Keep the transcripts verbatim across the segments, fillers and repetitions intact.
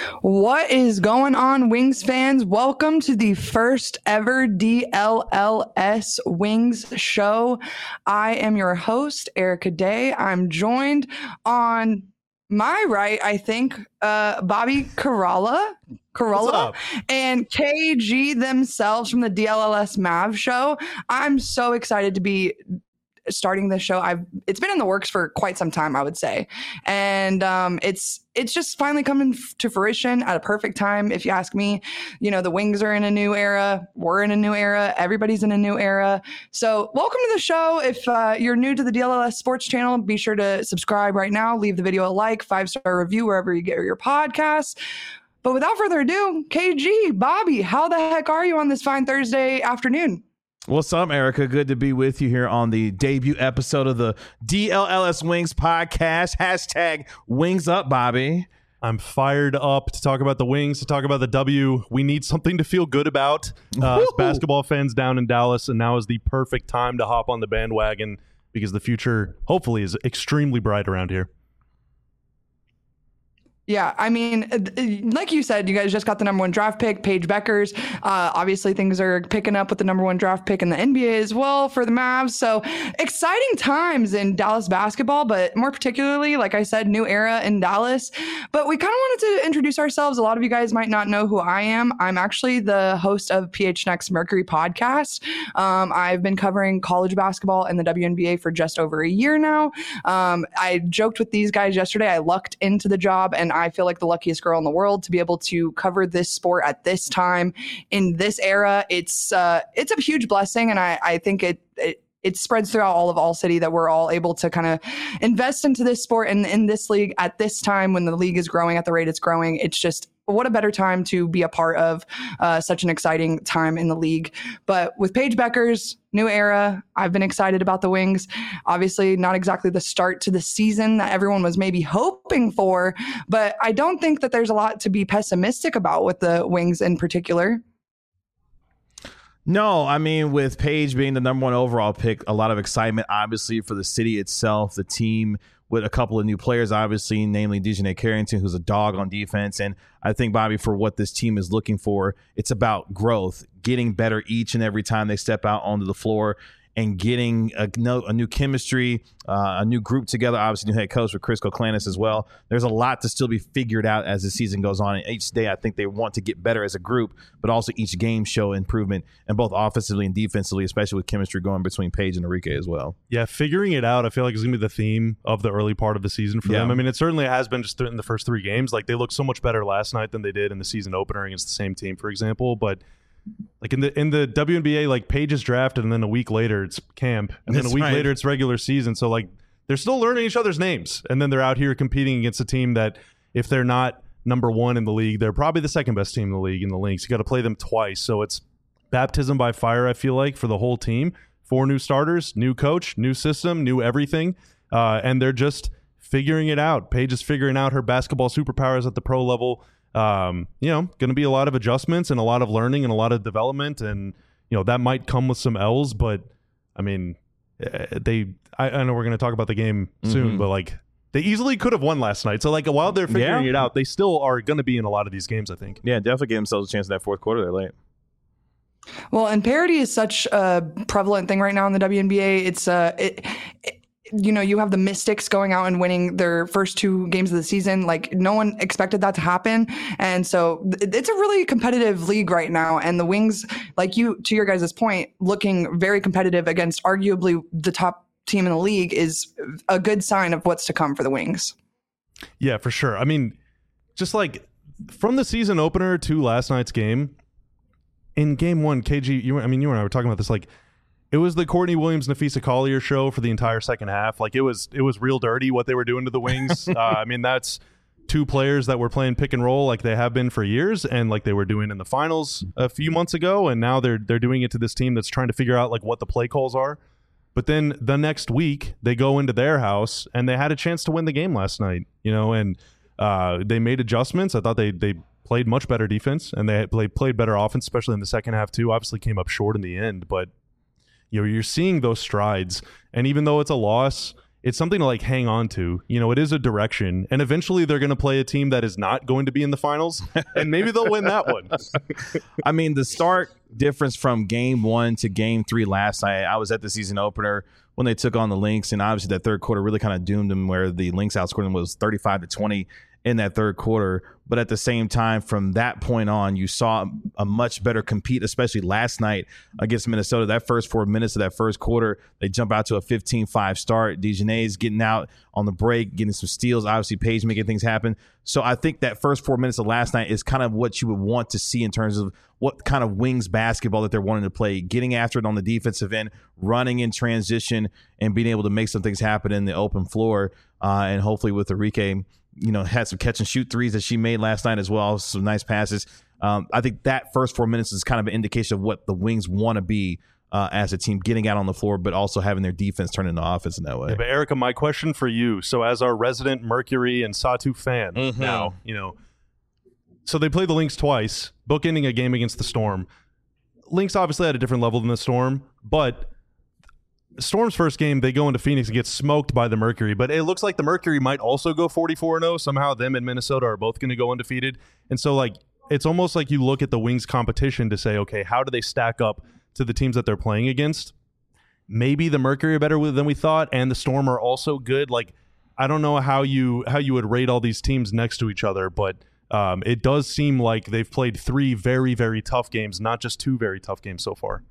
What is going on, Wings fans? Welcome to the first ever D L L S Wings show. I am your host, Erica Day. I'm joined on my right, I think, uh, Bobby Carolla, Carolla and K G themselves from the D L L S Mav show. I'm so excited to be starting this show. I've it's been in the works for quite some time, I would say, and um, it's it's just finally coming f- to fruition at a perfect time, if you ask me. You know, the Wings are in a new era. We're in a new era. Everybody's in a new era. So, welcome to the show. If uh, you're new to the D L L S Sports channel, be sure to subscribe right now. Leave the video a like, five star review wherever you get your podcasts. But without further ado, K G, Bobby, how the heck are you on this fine Thursday afternoon? What's up, Erica? Good to be with you here on the debut episode of the D L L S Wings podcast. Hashtag Wings Up, Bobby. I'm fired up to talk about the Wings, to talk about the W. We need something to feel good about uh, as basketball fans down in Dallas, and now is the perfect time to hop on the bandwagon because the future, hopefully, is extremely bright around here. Yeah, I mean, like you said, you guys just got the number one draft pick, Paige Bueckers. Uh, obviously, things are picking up with the number one draft pick in the N B A as well for the Mavs. So exciting times in Dallas basketball, but more particularly, like I said, new era in Dallas. But we kind of wanted to introduce ourselves. A lot of you guys might not know who I am. I'm actually the host of P H Next Mercury podcast. Um, I've been covering college basketball and the W N B A for just over a year now. Um, I joked with these guys yesterday. I lucked into the job, and I feel like the luckiest girl in the world to be able to cover this sport at this time in this era. It's uh, it's a huge blessing, and I, I think it, it it spreads throughout all of All City that we're all able to kind of invest into this sport and in this league at this time when the league is growing at the rate it's growing. It's just what a better time to be a part of uh, such an exciting time in the league. But with Paige Bueckers, new era, I've been excited about the Wings. Obviously, not exactly the start to the season that everyone was maybe hoping for, but I don't think that there's a lot to be pessimistic about with the Wings in particular. No, I mean, with Paige being the number one overall pick, a lot of excitement, obviously, for the city itself, the team, with a couple of new players, obviously, namely Dejanay Carrington, who's a dog on defense. And I think, Bobby, for what this team is looking for, it's about growth, getting better each and every time they step out onto the floor and getting a, no, a new chemistry, uh, a new group together, obviously new head coach with Chris Koklanis as well. There's a lot to still be figured out as the season goes on. And each day, I think they want to get better as a group, but also each game show improvement, and both offensively and defensively, especially with chemistry going between Paige and Enrique as well. Yeah, figuring it out, I feel like is going to be the theme of the early part of the season for yeah. them. I mean, it certainly has been just in the first three games. Like, they looked so much better last night than they did in the season opener against the same team, for example. But like in the in the W N B A, like Paige is drafted, and then a week later it's camp, and That's then a week right. later it's regular season. So like they're still learning each other's names, and then they're out here competing against a team that, if they're not number one in the league, they're probably the second best team in the league in the Lynx. You got to play them twice, so it's baptism by fire, I feel like, for the whole team. Four new starters, new coach, new system, new everything, uh, and they're just figuring it out. Paige is figuring out her basketball superpowers at the pro level. Um, you know, going to be a lot of adjustments and a lot of learning and a lot of development, and you know that might come with some L's, but I mean, they. I, I know we're going to talk about the game soon, Mm-hmm. but like they easily could have won last night. So like while they're figuring Yeah. it out, they still are going to be in a lot of these games, I think. Yeah, definitely give themselves a chance in that fourth quarter. They're late. Well, and parity is such a prevalent thing right now in the W N B A. It's uh, it, it, you know, you have the Mystics going out and winning their first two games of the season. Like, no one expected that to happen, and so th- it's a really competitive league right now. And the Wings, like you, to your guys' point, looking very competitive against arguably the top team in the league is a good sign of what's to come for the Wings. Yeah, for sure. I mean, just like from the season opener to last night's game. In game one, K G, you, I mean, you and I were talking about this. Like, it was the Courtney Williams, Nafisa Collier show for the entire second half. Like, it was, it was real dirty what they were doing to the Wings. uh, I mean, that's two players that were playing pick and roll like they have been for years, and like they were doing in the finals a few months ago, and now they're they're doing it to this team that's trying to figure out like what the play calls are. But then the next week, they go into their house and they had a chance to win the game last night. You know, and uh, they made adjustments. I thought they they. played much better defense, and they played played better offense, especially in the second half too. Obviously came up short in the end, but you know, you're seeing those strides. And even though it's a loss, it's something to like hang on to. You know, it is a direction, and eventually they're going to play a team that is not going to be in the finals, and maybe they'll win that one. I mean, the start difference from game one to game three last night, I was at the season opener when they took on the Lynx, and obviously that third quarter really kind of doomed them, where the Lynx outscored them was thirty-five to twenty in that third quarter. But at the same time, from that point on, you saw a much better compete, especially last night against Minnesota. That first four minutes of that first quarter, they jump out to a fifteen five start. DeJournet's getting out on the break, getting some steals. Obviously, Paige making things happen. So I think that first four minutes of last night is kind of what you would want to see in terms of what kind of Wings basketball that they're wanting to play, getting after it on the defensive end, running in transition, and being able to make some things happen in the open floor. Uh, and hopefully with Arike, you know, had some catch and shoot threes that she made last night as well. Some nice passes. Um, I think that first four minutes is kind of an indication of what the Wings want to be uh, as a team, getting out on the floor, but also having their defense turn into offense in that way. Yeah, but Erica, my question for you. So as our resident Mercury and Satu fan mm-hmm. now, you know, so they played the Lynx twice, bookending a game against the Storm. Lynx obviously had a different level than the Storm, but Storm's first game, they go into Phoenix and get smoked by the Mercury, but it looks like the Mercury might also go forty-four and oh. Somehow them and Minnesota are both going to go undefeated. And so, like, it's almost like you look at the Wings competition to say, okay, how do they stack up to the teams that they're playing against? Maybe the Mercury are better than we thought, and the Storm are also good. Like, I don't know how you how you would rate all these teams next to each other, but um, it does seem like they've played three very, very tough games, not just two very tough games so far.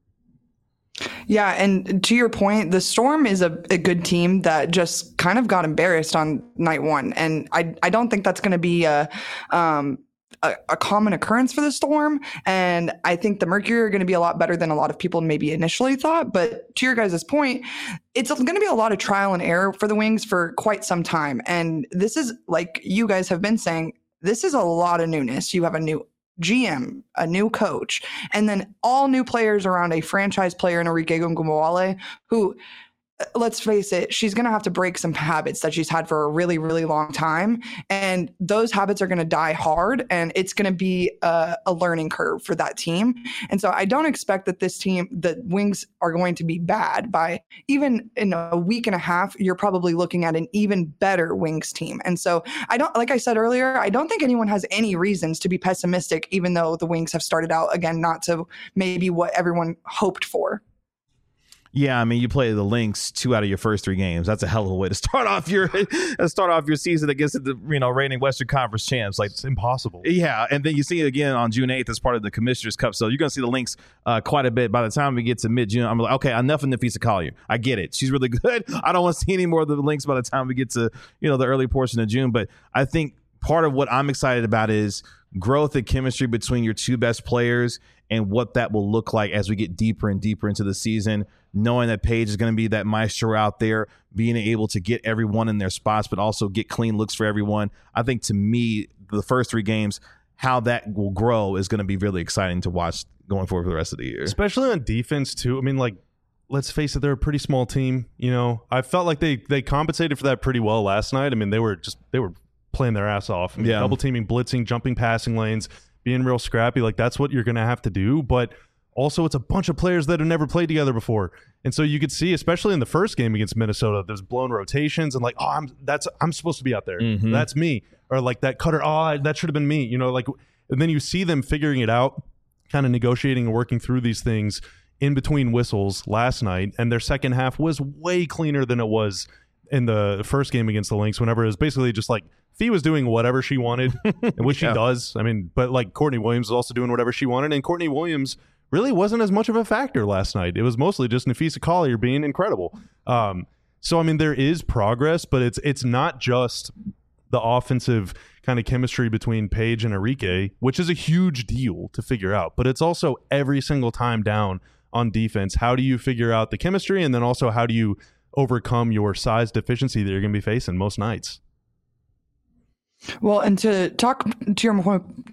Yeah, and to your point, the Storm is a, a good team that just kind of got embarrassed on night one, and I I don't think that's going to be a um a, a common occurrence for the Storm. And I think the Mercury are going to be a lot better than a lot of people maybe initially thought. But to your guys' point, it's going to be a lot of trial and error for the Wings for quite some time. And this is, like you guys have been saying, this is a lot of newness. You have a new G M, a new coach, and then all new players around a franchise player in Arike Ogunbowale, who, let's face it, she's going to have to break some habits that she's had for a really, really long time. And those habits are going to die hard, and it's going to be a, a learning curve for that team. And so I don't expect that this team, the Wings, are going to be bad. By even in a week and a half, you're probably looking at an even better Wings team. And so I don't, like I said earlier, I don't think anyone has any reasons to be pessimistic, even though the Wings have started out, again, not to maybe what everyone hoped for. Yeah, I mean, you play the Lynx two out of your first three games. That's a hell of a way to start off your start off your season against the you know reigning Western Conference champs. Like, it's impossible. Yeah, and then you see it again on June eighth as part of the Commissioner's Cup. So you're going to see the Lynx uh, quite a bit. By the time we get to mid-June, I'm like, okay, enough of Napheesa Collier. I get it. She's really good. I don't want to see any more of the Lynx by the time we get to you know the early portion of June. But I think part of what I'm excited about is growth and chemistry between your two best players and what that will look like as we get deeper and deeper into the season, knowing that Paige is going to be that maestro out there, being able to get everyone in their spots, but also get clean looks for everyone. I think, to me, the first three games, how that will grow is going to be really exciting to watch going forward for the rest of the year. Especially on defense, too. I mean, like, let's face it, they're a pretty small team. You know, I felt like they, they compensated for that pretty well last night. I mean, they were just, they were playing their ass off. I mean, yeah. Double teaming, blitzing, jumping passing lanes, being real scrappy. Like, that's what you're going to have to do. But also, it's a bunch of players that have never played together before. And so you could see, especially in the first game against Minnesota, there's blown rotations and like, oh, I'm that's I'm supposed to be out there. Mm-hmm. That's me. Or like that cutter, oh, that should have been me. You know, like, and then you see them figuring it out, kind of negotiating and working through these things in between whistles last night. And their second half was way cleaner than it was in the first game against the Lynx, whenever it was basically just like Fee was doing whatever she wanted, which yeah. she does. I mean, but like Courtney Williams was also doing whatever she wanted, and Courtney Williams really wasn't as much of a factor last night. It was mostly just Napheesa Collier being incredible. Um, so I mean, there is progress, but it's it's not just the offensive kind of chemistry between Paige and Arike, which is a huge deal to figure out. But it's also every single time down on defense, how do you figure out the chemistry, and then also how do you overcome your size deficiency that you're going to be facing most nights? Well, and to talk to your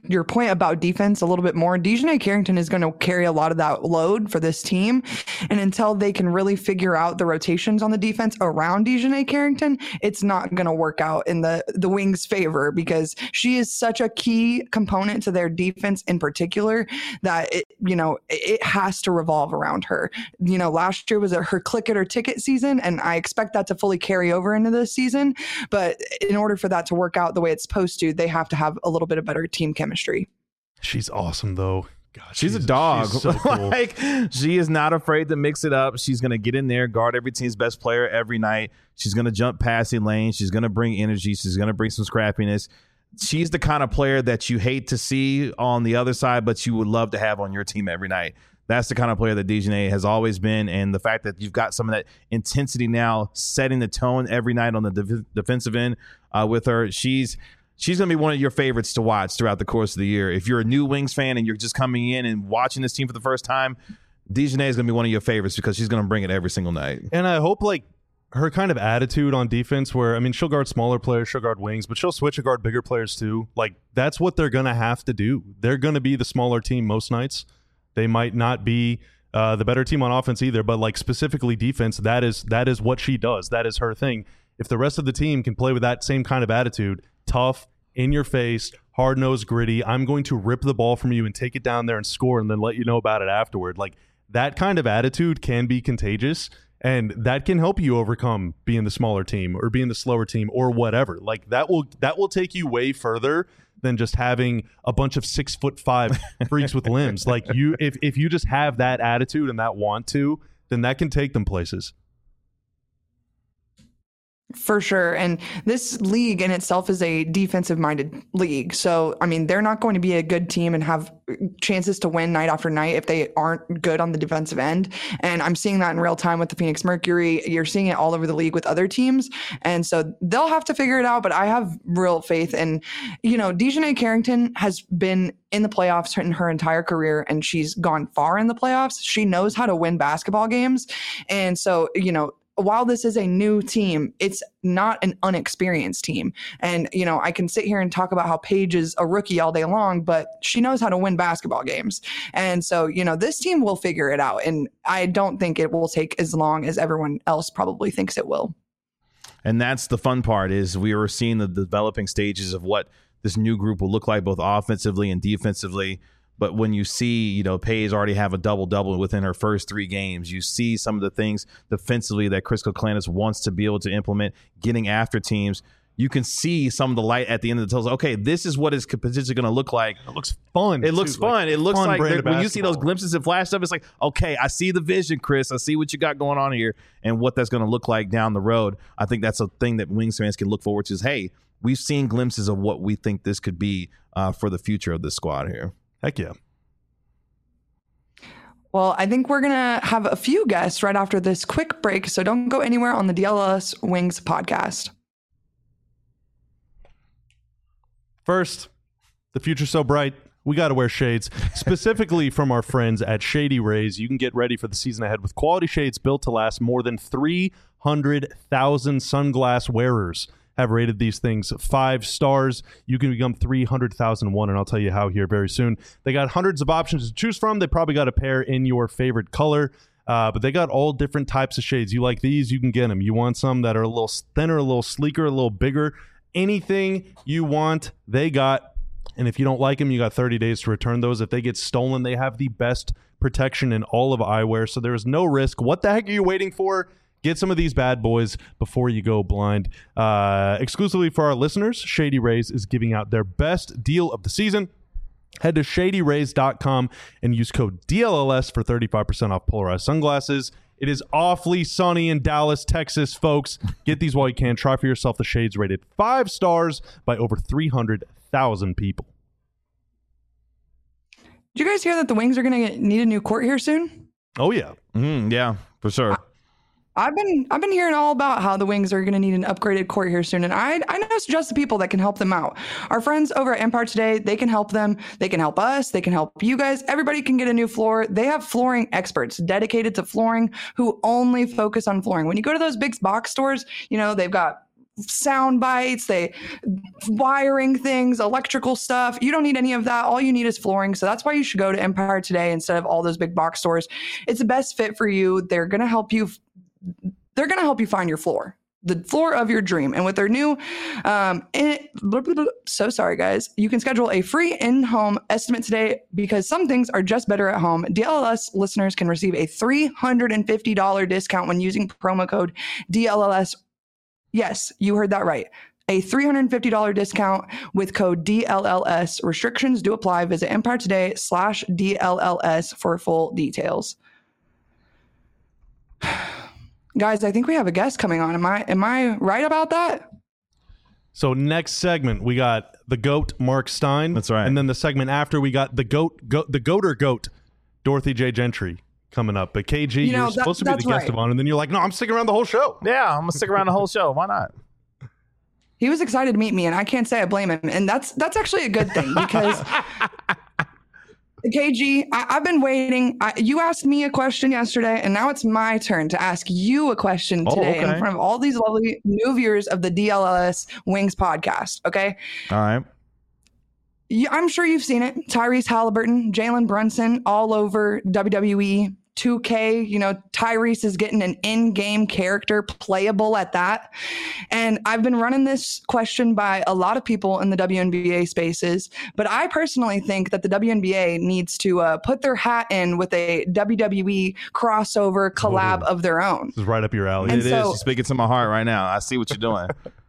your point about defense a little bit more, Dejanay Carrington is going to carry a lot of that load for this team. And until they can really figure out the rotations on the defense around Dejanay Carrington, it's not going to work out in the, the Wings' favor, because she is such a key component to their defense in particular that it, you know, it has to revolve around her. You know, last year was a, her click it or ticket season, and I expect that to fully carry over into this season. But in order for that to work out the way it's supposed to, they have to have a little bit of better team chemistry. She's awesome, though. God, she's, she's a dog. She's so cool. Like, she is not afraid to mix it up. She's going to get in there, guard every team's best player every night. She's going to jump passing lanes. She's going to bring energy. She's going to bring some scrappiness. She's the kind of player that you hate to see on the other side, but you would love to have on your team every night. That's the kind of player that Dejanay has always been, and the fact that you've got some of that intensity now setting the tone every night on the de- defensive end uh, with her, she's she's going to be one of your favorites to watch throughout the course of the year. If you're a new Wings fan and you're just coming in and watching this team for the first time, Dejanay is going to be one of your favorites because she's going to bring it every single night. And I hope, like, her kind of attitude on defense where, I mean, she'll guard smaller players, she'll guard wings, but she'll switch to guard bigger players too. Like, that's what they're going to have to do. They're going to be the smaller team most nights. They might not be uh, the better team on offense either, but like specifically defense, that is that is what she does. That is her thing. If the rest of the team can play with that same kind of attitude, tough, in your face, hard-nosed, gritty, I'm going to rip the ball from you and take it down there and score and then let you know about it afterward. Like, that kind of attitude can be contagious, and that can help you overcome being the smaller team or being the slower team or whatever. Like, that will that will take you way further than just having a bunch of six foot five freaks with limbs. Like, you, if if you just have that attitude and that want to, then that can take them places. For sure. And this league in itself is a defensive minded league. So, I mean, they're not going to be a good team and have chances to win night after night if they aren't good on the defensive end. And I'm seeing that in real time with the Phoenix Mercury. You're seeing it all over the league with other teams. And so they'll have to figure it out. But I have real faith. And, you know, Dejanay Carrington has been in the playoffs in her entire career, and she's gone far in the playoffs. She knows how to win basketball games. And so, you know, while this is a new team, it's not an unexperienced team. And, you know, I can sit here and talk about how Paige is a rookie all day long, but she knows how to win basketball games. And so, you know, this team will figure it out. And I don't think it will take as long as everyone else probably thinks it will. And that's the fun part, is we were seeing the developing stages of what this new group will look like, both offensively and defensively. But when you see, you know, Paige already have a double-double within her first three games, you see some of the things defensively that Chris Kouklanis wants to be able to implement, getting after teams. You can see some of the light at the end of the tunnel. Okay, this is what it's potentially going to look like. It looks fun. It looks too. fun. Like, it looks fun like when you see those basketball. glimpses and flash stuff, it's like, okay, I see the vision, Chris. I see what you got going on here and what that's going to look like down the road. I think that's a thing that Wings fans can look forward to is, hey, we've seen glimpses of what we think this could be uh, for the future of this squad here. Heck yeah. Well, I think we're going to have a few guests right after this quick break, so don't go anywhere on the D L S Wings podcast. First, the future's so bright, we got to wear shades. Specifically from our friends at Shady Rays, you can get ready for the season ahead with quality shades built to last. More than three hundred thousand sunglass wearers have rated these things five stars. You can become three hundred thousand one, and I'll tell you how here very soon. They got hundreds of options to choose from. They probably got a pair in your favorite color, uh, but they got all different types of shades. You like these, you can get them. You want some that are a little thinner, a little sleeker, a little bigger. Anything you want, they got. And if you don't like them, you got thirty days to return those. If they get stolen, they have the best protection in all of eyewear, so there is no risk. What the heck are you waiting for? Get some of these bad boys before you go blind. Uh, exclusively for our listeners, Shady Rays is giving out their best deal of the season. Head to shady rays dot com and use code D L L S for thirty-five percent off polarized sunglasses. It is awfully sunny in Dallas, Texas, folks. Get these while you can. Try for yourself the shades rated five stars by over three hundred thousand people. Did you guys hear that the Wings are going to need a new court here soon? Oh, yeah. Mm, yeah, for sure. I- I've been I've been hearing all about how the Wings are going to need an upgraded court here soon, and I I know just the people that can help them out. Our friends over at Empire Today, they can help them. They can help us. They can help you guys. Everybody can get a new floor. They have flooring experts dedicated to flooring who only focus on flooring. When you go to those big box stores, you know they've got sound bites, they wiring things, electrical stuff. You don't need any of that. All you need is flooring. So that's why you should go to Empire Today instead of all those big box stores. It's the best fit for you. They're going to help you. They're going to help you find your floor, the floor of your dream. And with their new, um, it, so sorry guys, you can schedule a free in-home estimate today because some things are just better at home. D L L S listeners can receive a three hundred fifty dollars discount when using promo code D L L S. Yes, you heard that right. A three hundred fifty dollars discount with code D L L S. Restrictions do apply. Visit Empire Today slash D L L S for full details. Guys, I think we have a guest coming on. Am I am I right about that? So next segment, we got the GOAT, Mark Stein. That's right. And then the segment after, we got the GOAT, goat, the GOATer GOAT, Dorothy J. Gentry coming up. But K G, You know, you're that- supposed to be the that's guest right. of honor, and then you're like, no, I'm sticking around the whole show. Yeah, I'm gonna stick around the whole show. Why not? He was excited to meet me, and I can't say I blame him. And that's that's actually a good thing because K G, I, I've been waiting. I, you asked me a question yesterday, and now it's my turn to ask you a question Oh, today okay. in front of all these lovely new viewers of the D L L S Wings podcast. Okay. All right. You, I'm sure you've seen it. Tyrese Halliburton, Jalen Brunson, all over W W E. two K, you know, Tyrese is getting an in-game character, playable at that. And I've been running this question by a lot of people in the W N B A spaces, but I personally think that the W N B A needs to uh, put their hat in with a W W E crossover collab Ooh. of their own. This is right up your alley. And It is. so- You're speaking to my heart right now. I see what you're doing.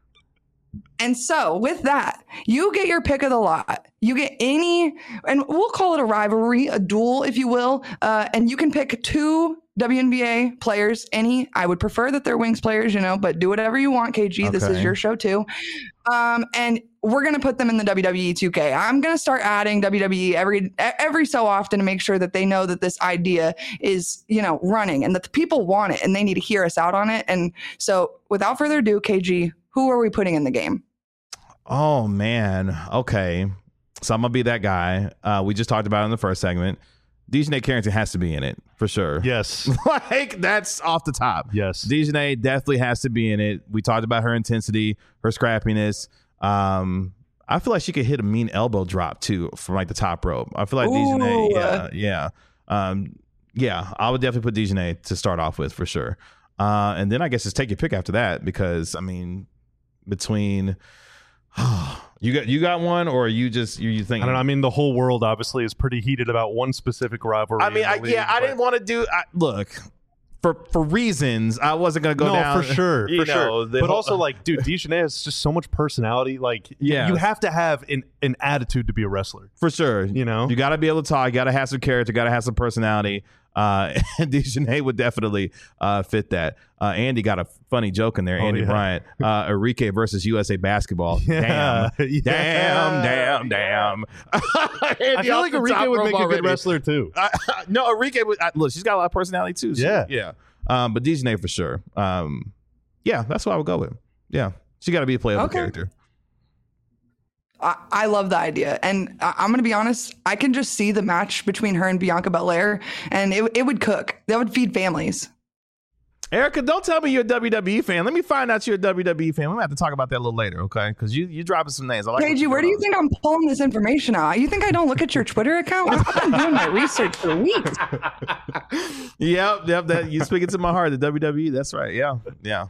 And so with that, you get your pick of the lot. You get any, and we'll call it a rivalry, a duel, if you will. Uh, and you can pick two W N B A players, any. I would prefer that they're Wings players, you know, but do whatever you want, K G. This is Okay. your show too. Um, and we're going to put them in the W W E two K. I'm going to start adding W W E every every so often to make sure that they know that this idea is, you know, running and that the people want it and they need to hear us out on it. And so without further ado, K G, who are we putting in the game? Oh man. Okay. So I'm gonna be that guy. Uh, we just talked about it in the first segment. Dejanay Carrington has to be in it for sure. Yes. Like that's off the top. Yes. Dejanay definitely has to be in it. We talked about her intensity, her scrappiness. Um, I feel like she could hit a mean elbow drop too from like the top rope. I feel like Dejanay, Ooh. yeah, yeah, um, yeah. I would definitely put Dejanay to start off with for sure. Uh, and then I guess just take your pick after that because I mean, between you got you got one or are you just you you thinking? I don't know. I mean, the whole world obviously is pretty heated about one specific rivalry. I mean, in the I, league, yeah, I but- didn't want to do. I, look, for for reasons, I wasn't gonna go no, down. for sure, you for know, sure. the But whole- also, like, dude, Dejanay has just so much personality. Like, Yeah. you have to have an, an attitude to be a wrestler. for sure, You know? you got to be able to talk. You got to have some character. Got to have some personality. Uh, and Dejanay would definitely uh, fit that. Uh, Andy got a funny joke in there. Oh, Andy yeah. Bryant, uh, Enrique versus U S A Basketball. Yeah. Damn, Yeah. damn, damn, damn. I feel like Enrique would make a good wrestler too. Uh, no, Enrique would uh, look. She's got a lot of personality too. She- Yeah. yeah. Um, but Dejanay for sure. Um, yeah, that's what I would go with. Yeah, she got to be a playable Okay. character. I, I love the idea. And I, I'm going to be honest, I can just see the match between her and Bianca Belair, and it, it would cook. That would feed families. Erica, don't tell me you're a W W E fan. Let me find out you're a W W E fan. We might have to talk about that a little later, okay? Because you you dropping some names. I like. K G, where do you think I'm pulling this information out? You think I don't look at your Twitter account? I've been doing my research for weeks. Yep, yep. That you speaking to my heart. The W W E. That's right. Yeah, yeah.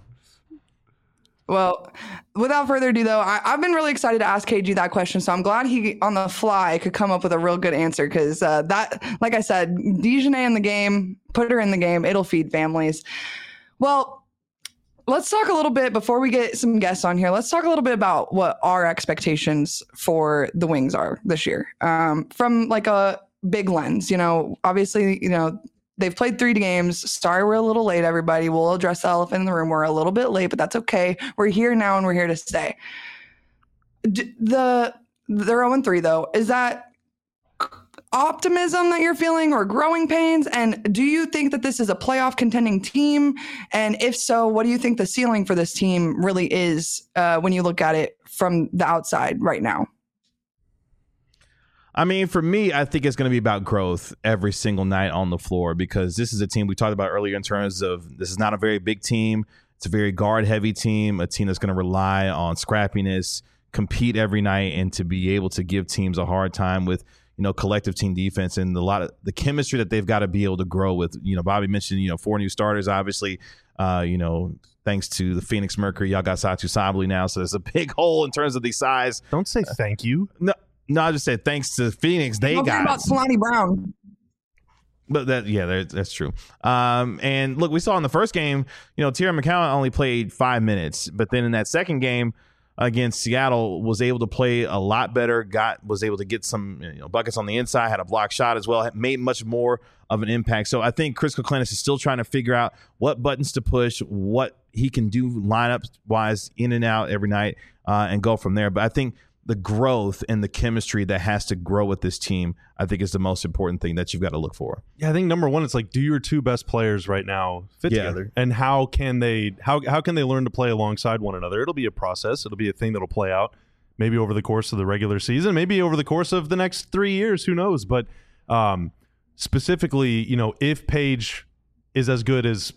Well, without further ado, though, I, I've been really excited to ask K G that question. So I'm glad he, on the fly, could come up with a real good answer because uh, that, like I said, Dejanay in the game, put her in the game, it'll feed families. Well, let's talk a little bit before we get some guests on here. Let's talk a little bit about what our expectations for the Wings are this year, um, from like a big lens. You know, obviously, you know. They've played three games. Sorry, we're a little late, everybody. We'll address the elephant in the room. We're a little bit late, but that's okay. We're here now and we're here to stay. D- the they're oh and three though. Is that optimism that you're feeling or growing pains? And do you think that this is a playoff contending team? And if so, what do you think the ceiling for this team really is uh, when you look at it from the outside right now? I mean, for me, I think it's going to be about growth every single night on the floor because this is a team we talked about earlier in terms of this is not a very big team. It's It's a very guard-heavy team, a team that's going to rely on scrappiness, compete every night, and to be able to give teams a hard time with, you know, collective team defense and a lot of the chemistry that they've got to be able to grow with. You know, Bobby mentioned, you know, four new starters, obviously, uh, you know, thanks to the Phoenix Mercury, y'all got Satu Sabally now. So there's a big hole in terms of the size. Don't say thank you. No, no, I just said thanks to Phoenix. They Don't got about Kalani Brown. But that, yeah, that's true. Um, and look, we saw in the first game, you know, Tierra McCowan only played five minutes, but then in that second game against Seattle, was able to play a lot better. Got was able to get some, you know, buckets on the inside, had a block shot as well, made much more of an impact. So I think Chris Kouklenis is still trying to figure out what buttons to push, what he can do lineup wise, in and out every night, uh, and go from there. But I think the growth and the chemistry that has to grow with this team, I think, is the most important thing that you've got to look for. Yeah, I think number one, it's like, do your two best players right now fit Yeah. together, and how can they how how can they learn to play alongside one another? It'll be a process. It'll be a thing that'll play out maybe over the course of the regular season, maybe over the course of the next three years. Who knows? But um, specifically, you know, if Paige is as good as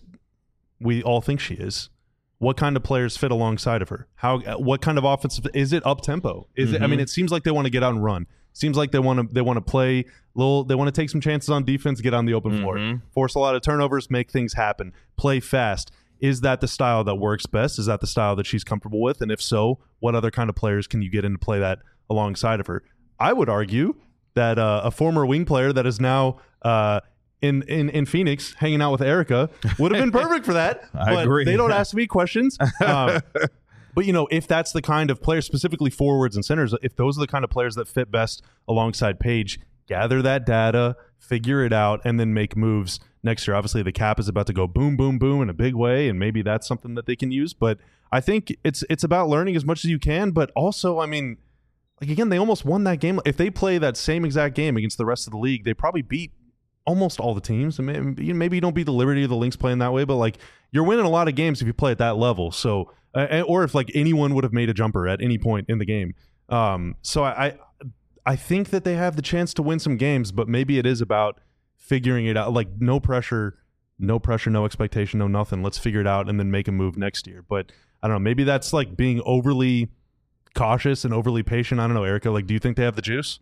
we all think she is, what kind of players fit alongside of her? How? What kind of offensive? Is it up tempo? Is mm-hmm. it? I mean, it seems like they want to get out and run. Seems like they want to. They want to play little. They want to take some chances on defense, get on the open mm-hmm. floor, force a lot of turnovers, make things happen, play fast. Is that the style that works best? Is that the style that she's comfortable with? And if so, what other kind of players can you get in to play that alongside of her? I would argue that uh, a former wing player that is now uh, in, in in Phoenix hanging out with Erica would have been perfect for that. I but agree. They don't ask me questions. Um, but, you know, if that's the kind of players, specifically forwards and centers, if those are the kind of players that fit best alongside Paige, gather that data, figure it out, and then make moves next year. Obviously, the cap is about to go boom, boom, boom in a big way, and maybe that's something that they can use. But I think it's it's about learning as much as you can, but also, I mean, like, again, they almost won that game. If they play that same exact game against the rest of the league, they probably beat almost all the teams. I mean, maybe you don't beat the Liberty or the Lynx playing that way, but, like, you're winning a lot of games if you play at that level. So, uh, or if, like, anyone would have made a jumper at any point in the game. Um, so I, I think that they have the chance to win some games, but maybe it is about figuring it out. Like, no pressure, no pressure, no expectation, no nothing. Let's figure it out and then make a move next year. But I don't know. Maybe that's like being overly cautious and overly patient. I don't know, Erica. Like, do you think they have the juice?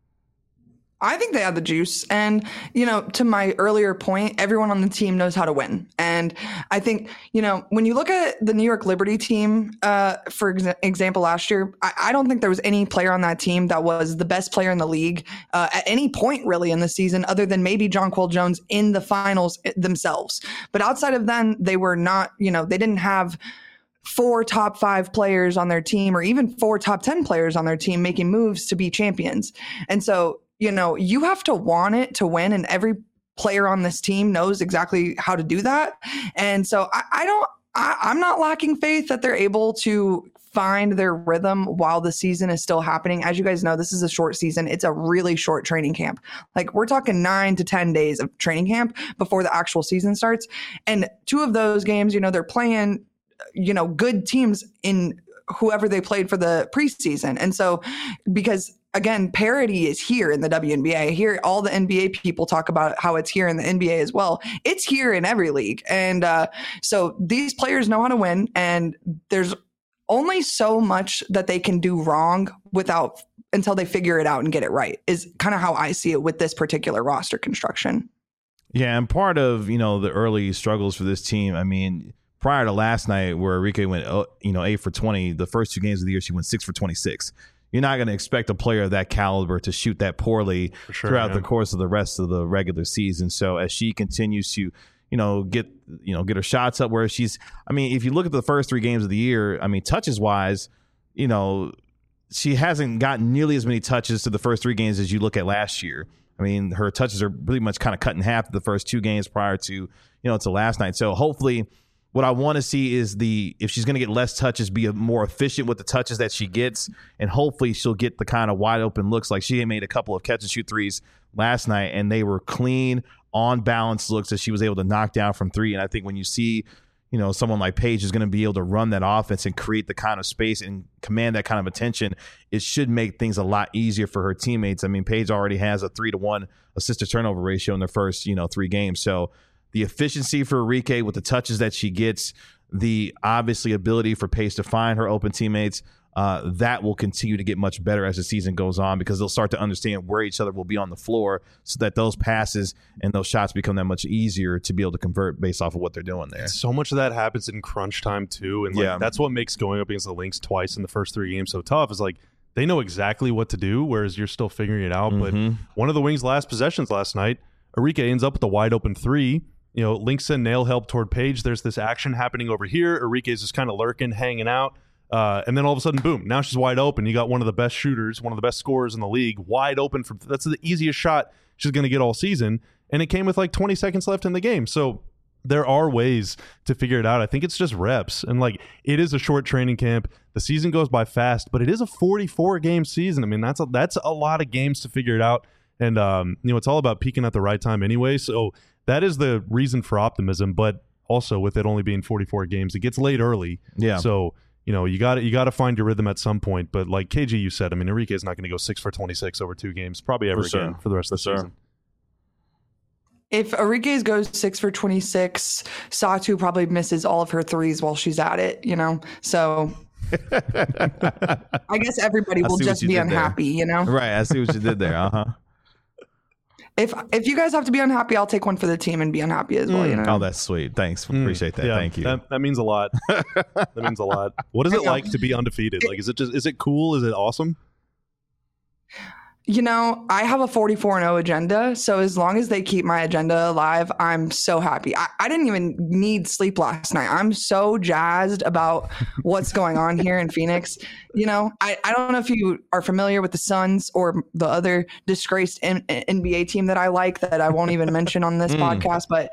I think they have the juice. And, you know, to my earlier point, everyone on the team knows how to win. And I think, you know, when you look at the New York Liberty team, uh, for ex- example, last year, I-, I don't think there was any player on that team that was the best player in the league uh, at any point really in the season, other than maybe Jonquel Jones in the finals themselves. But outside of then, they were not, you know, they didn't have four top five players on their team or even four top ten players on their team making moves to be champions. And so, you know, you have to want it to win, and every player on this team knows exactly how to do that. And so I, I don't, I, I'm not lacking faith that they're able to find their rhythm while the season is still happening. As you guys know, this is a short season. It's a really short training camp. Like, we're talking nine to ten days of training camp before the actual season starts. And two of those games, you know, they're playing, you know, good teams in whoever they played for the preseason. And so, because again, parity is here in the W N B A. Here, all the N B A people talk about how it's here in the N B A as well. It's here in every league. And uh, so these players know how to win, and there's only so much that they can do wrong without until they figure it out and get it right, is kind of how I see it with this particular roster construction. Yeah, and part of, you know, the early struggles for this team, I mean, prior to last night where Arike went, you know, eight for twenty, the first two games of the year, she went six for twenty-six. You're not going to expect a player of that caliber to shoot that poorly sure, throughout yeah. the course of the rest of the regular season. So as she continues to, you know, get, you know, get her shots up where she's, I mean, if you look at the first three games of the year, I mean, touches wise, you know, she hasn't gotten nearly as many touches to the first three games as you look at last year. I mean, her touches are pretty much kind of cut in half the first two games prior to, you know, to last night. So hopefully, what I want to see is the, if she's going to get less touches, be a more efficient with the touches that she gets, and hopefully she'll get the kind of wide open looks. Like, she made a couple of catch and shoot threes last night, and they were clean, on balance looks that she was able to knock down from three. And I think when you see, you know, someone like Paige is going to be able to run that offense and create the kind of space and command that kind of attention, it should make things a lot easier for her teammates. I mean, Paige already has a three to one assist to turnover ratio in the first, you know, three games. So the efficiency for Arike with the touches that she gets, the obviously ability for Paige to find her open teammates, uh, that will continue to get much better as the season goes on, because they'll start to understand where each other will be on the floor, so that those passes and those shots become that much easier to be able to convert based off of what they're doing there. So much of that happens in crunch time too, and like, Yeah. that's what makes going up against the Lynx twice in the first three games so tough. Is like they know exactly what to do, whereas you're still figuring it out. Mm-hmm. But one of the Wings' last possessions last night, Arike ends up with a wide open three. You know, Lynx send nail help toward Paige. There's this action happening over here. Arike's just kind of lurking, hanging out. Uh, and then all of a sudden, boom, now she's wide open. You got one of the best shooters, one of the best scorers in the league, wide open. From that's the easiest shot she's going to get all season. And it came with like twenty seconds left in the game. So there are ways to figure it out. I think it's just reps. And like, it is a short training camp. The season goes by fast, but it is a forty-four game season. I mean, that's a, that's a lot of games to figure it out. And, um, you know, it's all about peaking at the right time anyway. So that is the reason for optimism. But also with it only being forty-four games, it gets late early. Yeah. So, you know, you got to you got to find your rhythm at some point. But like K G, you said, I mean, Arike is not going to go six for twenty-six over two games, probably ever For sure. again for the rest of the For sure. season. If Arike goes six for twenty-six, Satu probably misses all of her threes while she's at it, you know? So I guess everybody I will see what just you be did there. unhappy, you know? Right. I see what you did there. Uh-huh. If if you guys have to be unhappy, I'll take one for the team and be unhappy as well, you know? Oh, that's sweet. Thanks. Appreciate that. Yeah, Thank you. That, that means a lot. That means a lot. What is it I know. like to be undefeated? Like, is it just is it cool? Is it awesome? You know, I have a forty-four and oh agenda. So as long as they keep my agenda alive, I'm so happy. I, I didn't even need sleep last night. I'm so jazzed about what's going on here in Phoenix. You know, I, I don't know if you are familiar with the Suns or the other disgraced N- NBA team that I like that I won't even mention on this podcast, but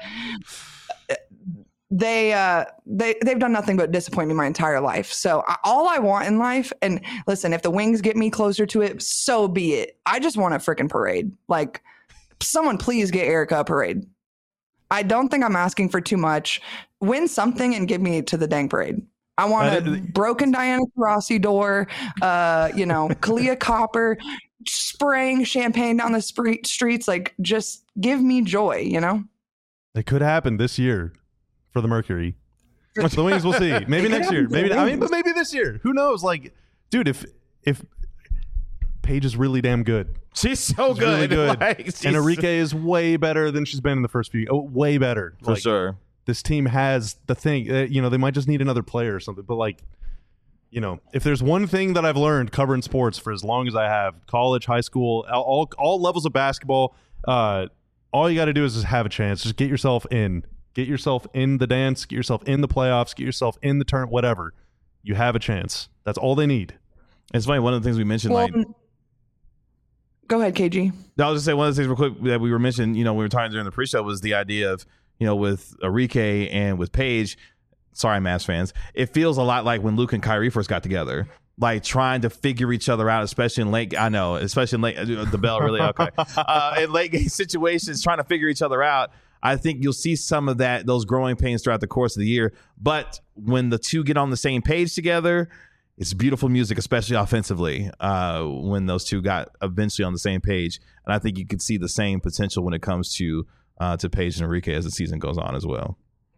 they uh they they've done nothing but disappoint me my entire life. So I, all I want in life, and listen, if the Wings get me closer to it, so be it. I just want a freaking parade. Like, someone please get Erica a parade. I don't think I'm asking for too much. Win something and give me to the dang parade. I want I a didn't- broken Diana Taurasi door, uh, you know, Kalia Copper spraying champagne down the spree- streets. Like, just give me joy, you know? It could happen this year for the Mercury. The Wings, we'll see. Maybe It could next year. happen for the Maybe I mean, Wings. but maybe this year. Who knows? Like, dude, if if Paige is really damn good, She's so she's good. really good, Like, she's- and Arike is way better than she's been in the first few. Oh, way better For Like, sure. This team has the thing. Uh, you know, they might just need another player or something. But like, you know, if there's one thing that I've learned covering sports for as long as I have, college, high school, all all, all levels of basketball, uh, all you got to do is just have a chance. Just get yourself in. Get yourself in the dance. Get yourself in the playoffs. Get yourself in the turn. Whatever. You have a chance. That's all they need. It's funny. One of the things we mentioned, Well, like, go ahead, K G. No, I was just saying one of the things real quick that we were mentioning, you know, we were talking during the pre-show was the idea of, you know, with Arike and with Paige, sorry, Mavs fans, it feels a lot like when Luke and Kyrie first got together, like trying to figure each other out, especially in late, I know, especially in late, the bell really, okay, uh, in late game situations, trying to figure each other out. I think you'll see some of that, those growing pains throughout the course of the year. But when the two get on the same page together, it's beautiful music, especially offensively, uh, when those two got eventually on the same page. And I think you could see the same potential when it comes to uh, to Paige and Arike as the season goes on as well.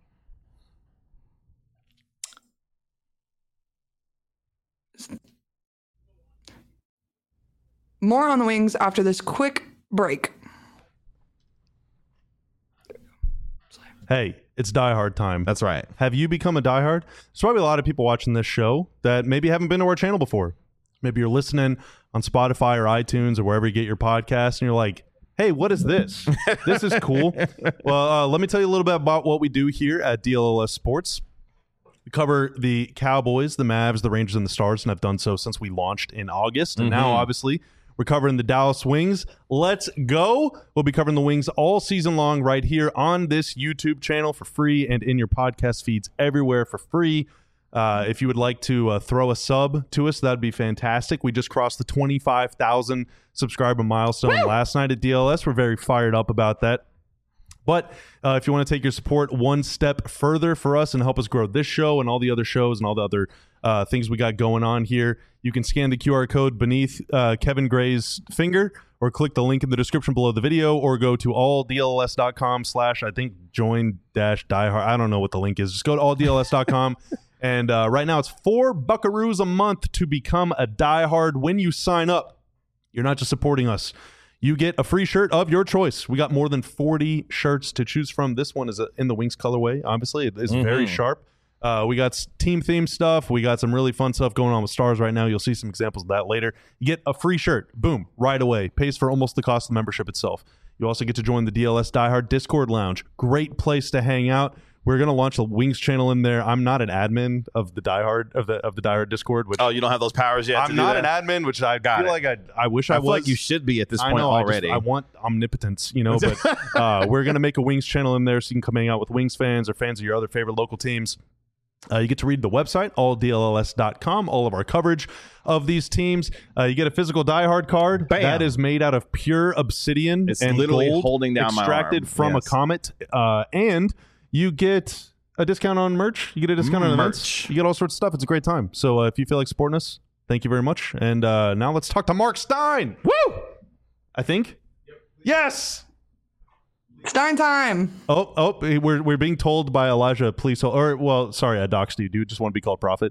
More on the Wings after this quick break. Hey, it's diehard time. That's right. Have you become a diehard? There's probably a lot of people watching this show that maybe haven't been to our channel before. Maybe you're listening on Spotify or iTunes or wherever you get your podcast, and you're like, hey, what is this? This is cool. Well, uh, let me tell you a little bit about what we do here at D L L S Sports. We cover the Cowboys, the Mavs, the Rangers, and the Stars, and I've done so since we launched in August. And now, obviously, we're covering the Dallas Wings. Let's go. We'll be covering the Wings all season long right here on this YouTube channel for free and in your podcast feeds everywhere for free. Uh, if you would like to uh, throw a sub to us, that'd be fantastic. We just crossed the twenty-five thousand subscriber milestone last night at D L S. We're very fired up about that. But uh, if you want to take your support one step further for us and help us grow this show and all the other shows and all the other uh, things we got going on here, you can scan the Q R code beneath uh, Kevin Gray's finger, or click the link in the description below the video, or go to alldls.com slash, I think, join dash diehard. I don't know what the link is. Just go to alldls dot com. And uh, right now it's four buckaroos a month to become a diehard. When you sign up, you're not just supporting us. You get a free shirt of your choice. We got more than forty shirts to choose from. This one is in the Wings colorway. Obviously, it is mm-hmm. very sharp. Uh, we got team theme stuff. We got some really fun stuff going on with Stars right now. You'll see some examples of that later. You get a free shirt. Boom. Right away. Pays for almost the cost of the membership itself. You also get to join the D L S Diehard Discord Lounge. Great place to hang out. We're gonna launch a Wings channel in there. I'm not an admin of the Diehard of the of the Diehard Discord. Which oh, you don't have those powers yet. I'm to do not that? an admin, which I Got feel it. like I I wish I, I was. feel like you should be at this I point know, already. I, just, I want omnipotence, you know. But uh, we're gonna make a Wings channel in there so you can come hang out with Wings fans or fans of your other favorite local teams. Uh, you get to read the website, all D L S dot com, all of our coverage of these teams. Uh, you get a physical diehard card Bam. that is made out of pure obsidian It's and literally gold holding down my extracted arm. from Yes. a comet. Uh, and you get a discount on merch. You get a discount Mm, on merch. events. You get all sorts of stuff. It's a great time. So uh, if you feel like supporting us, thank you very much. And uh, now let's talk to Mark Stein. Woo! I think. Yep. Yes. Stein time. Oh, oh, we're we're being told by Elijah, please hold, or well, sorry, I doxed you. Do you just want to be called Prophet?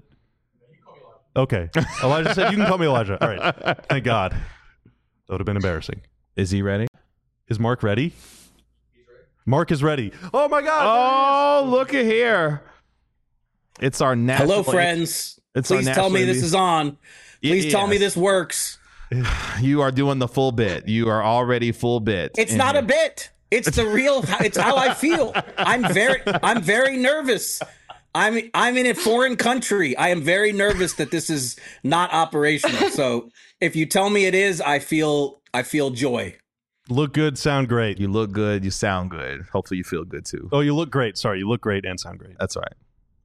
Okay. Elijah said you can call me Elijah. All right. Thank God. That would have been embarrassing. Is he ready? Is Mark ready? He's ready. Mark is ready. Oh my God. Oh, look at here. It's our national. Hello, friends. It's our Please tell me national- this is on. Please It tell me is. this works. You are doing the full bit. You are already full bit. It's in not here. a bit. It's the real. It's how I feel. I'm very. I'm very nervous. I'm. I'm in a foreign country. I am very nervous that this is not operational. So if you tell me it is, I feel. I feel joy. Look good, sound great. You look good. You sound good. Hopefully, you feel good too. Oh, you look great. Sorry, you look great and sound great. That's right.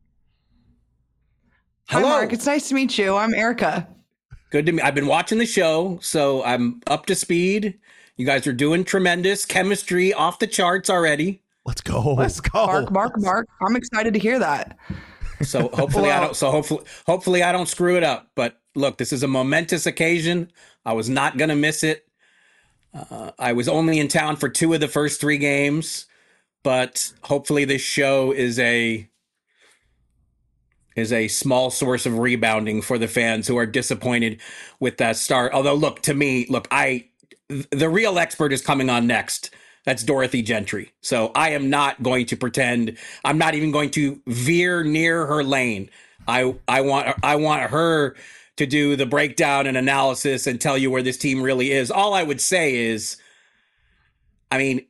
Hi, Hello. Mark. It's nice to meet you. I'm Erica. Good to me. I've been watching the show, so I'm up to speed. You guys are doing tremendous chemistry, off the charts already. Let's go. Let's go. Mark, Mark, Mark. I'm excited to hear that. So hopefully I Well- don't. So hopefully, hopefully I don't screw it up. But look, this is a momentous occasion. I was not going to miss it. Uh, I was only in town for two of the first three games, but hopefully this show is a is a small source of rebounding for the fans who are disappointed with that start. Although, look, to me, look, I the real expert is coming on next. That's Dorothy Gentry. So I am not going to pretend. I'm not even going to veer near her lane. I I want I want her to do the breakdown and analysis and tell you where this team really is. All I would say is, I mean,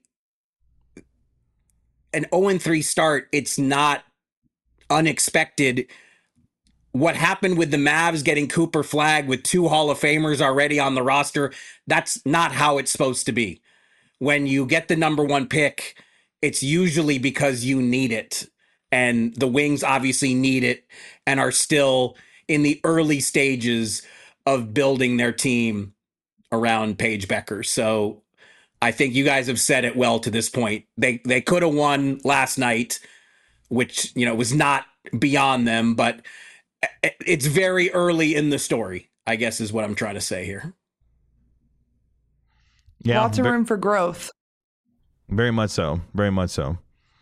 an oh and three start, it's not unexpected. What happened with the Mavs getting Cooper Flagg with two Hall of Famers already on the roster, that's not how it's supposed to be. When you get the number one pick, it's usually because you need it. And the Wings obviously need it and are still in the early stages of building their team around Paige Becker. So I think you guys have said it well to this point. They they could have won last night, which, you know, was not beyond them, but it's very early in the story, I guess is what I'm trying to say here. Yeah, Lots of ve- room for growth. very much so. Very much so.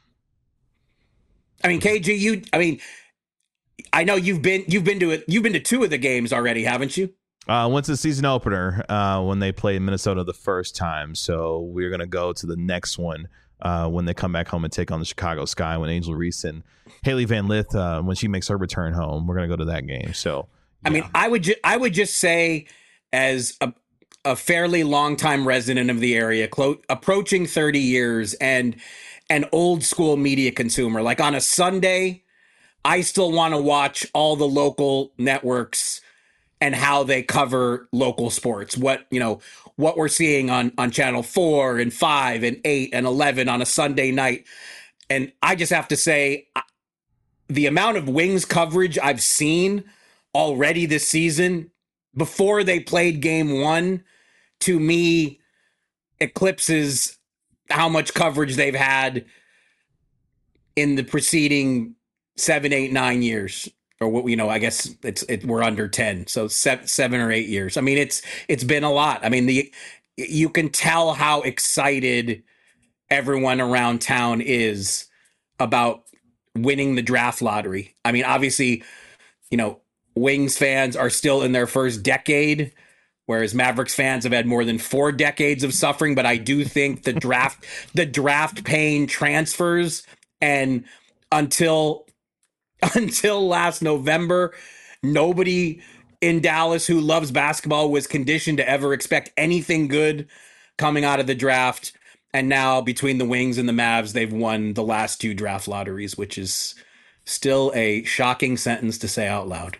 I mean, K G, you I mean, I know you've been you've been to it you've been to two of the games already, haven't you? Uh, went to the season opener uh, when they played Minnesota the first time. So we're going to go to the next one uh, when they come back home and take on the Chicago Sky when Angel Reese and Haley Van Lith, uh, when she makes her return home. We're going to go to that game. So, I mean, I would ju- I would just say, as a, a fairly long-time resident of the area, clo- approaching thirty years, and an old school media consumer, like on a Sunday, I still want to watch all the local networks and how they cover local sports. What, you know, what we're seeing on, on channel four and five and eight and eleven on a Sunday night. And I just have to say, I- the amount of Wings coverage I've seen already this season before they played game one, to me, eclipses how much coverage they've had in the preceding seven, eight, nine years, or what, you know, I guess it's, it, we're under ten. So seven, seven or eight years. I mean, it's, it's been a lot. I mean, the, you can tell how excited everyone around town is about winning the draft lottery. I mean, obviously, you know, Wings fans are still in their first decade, whereas Mavericks fans have had more than four decades of suffering. But I do think the draft, the draft pain transfers, and until until last November, nobody in Dallas who loves basketball was conditioned to ever expect anything good coming out of the draft. And now between the Wings and the Mavs, they've won the last two draft lotteries, which is still a shocking sentence to say out loud.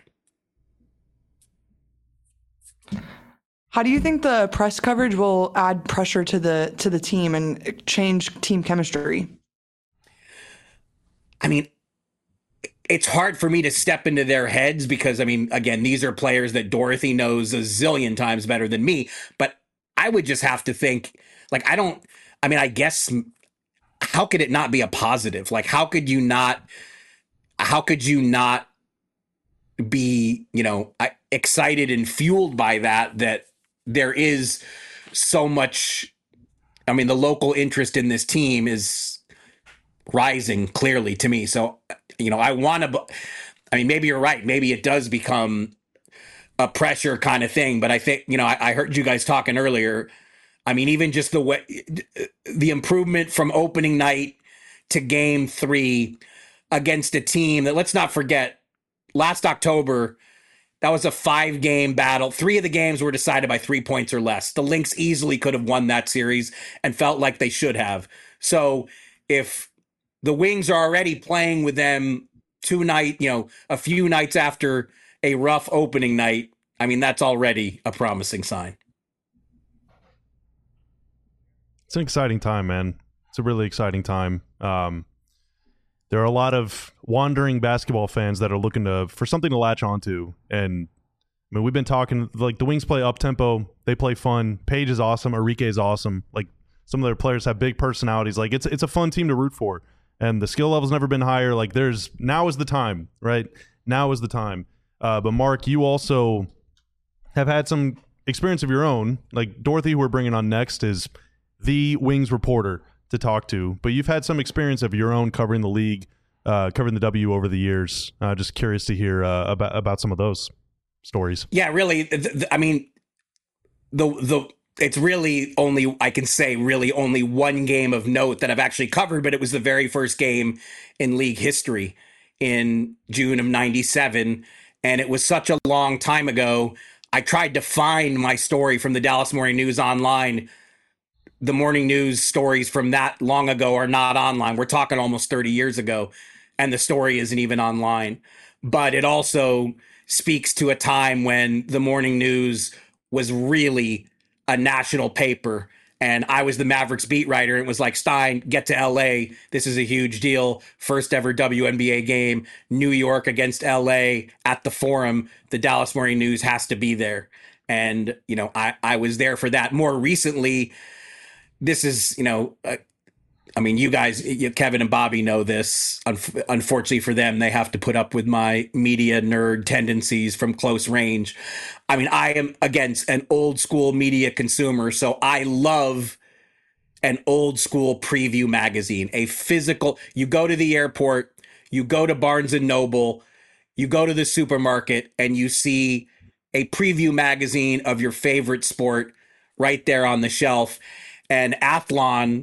How do you think the press coverage will add pressure to the to the team and change team chemistry? I mean, it's hard for me to step into their heads because, I mean, again, these are players that Dorothy knows a zillion times better than me. But I would just have to think, like, I don't, I mean, I guess, how could it not be a positive? Like, how could you not, how could you not be, you know, excited and fueled by that, that there is so much, I mean, the local interest in this team is rising clearly to me. So, you know, I want to, I mean, maybe you're right. Maybe it does become a pressure kind of thing. But I think, you know, I, I heard you guys talking earlier. I mean, even just the way, the improvement from opening night to game three against a team that, let's not forget, last October, that was a five game battle. Three of the games were decided by three points or less. The Lynx easily could have won that series and felt like they should have. So if the Wings are already playing with them two night, you know, a few nights after a rough opening night, I mean, that's already a promising sign. It's an exciting time, man. It's a really exciting time. Um, there are a lot of wandering basketball fans that are looking to for something to latch onto. And I mean, we've been talking, like, the Wings play up tempo. They play fun. Page is awesome. Arike is awesome. Like, some of their players have big personalities. Like, it's it's a fun team to root for. And the skill level's never been higher. Like, there's now is the time, right? Now is the time. Uh, but Mark, you also have had some experience of your own. Like, Dorothy, who we're bringing on next, is the Wings reporter to talk to, but you've had some experience of your own covering the league, uh, covering the W over the years. Uh, just curious to hear uh, about about some of those stories. Yeah, really. The, the, I mean, the the it's really only, I can say, really only one game of note that I've actually covered, but it was the very first game in league history in June of ninety-seven, and it was such a long time ago. I tried to find my story from the Dallas Morning News online. The morning news stories from that long ago are not online. We're talking almost thirty years ago, and the story isn't even online. But it also speaks to a time when the morning news was really a national paper, and I was the Mavericks beat writer. It was like, Stein, get to L A. This is a huge deal. First ever W N B A game, New York against L A at the Forum. The Dallas Morning News has to be there. And, you know, I, I was there for that. More recently, this is, you know, uh, I mean, you guys, you, Kevin and Bobby know this. Unf- unfortunately for them, they have to put up with my media nerd tendencies from close range. I mean, I am, again, an old school media consumer, so I love an old school preview magazine, a physical. You go to the airport, you go to Barnes and Noble, you go to the supermarket, and you see a preview magazine of your favorite sport right there on the shelf. And Athlon,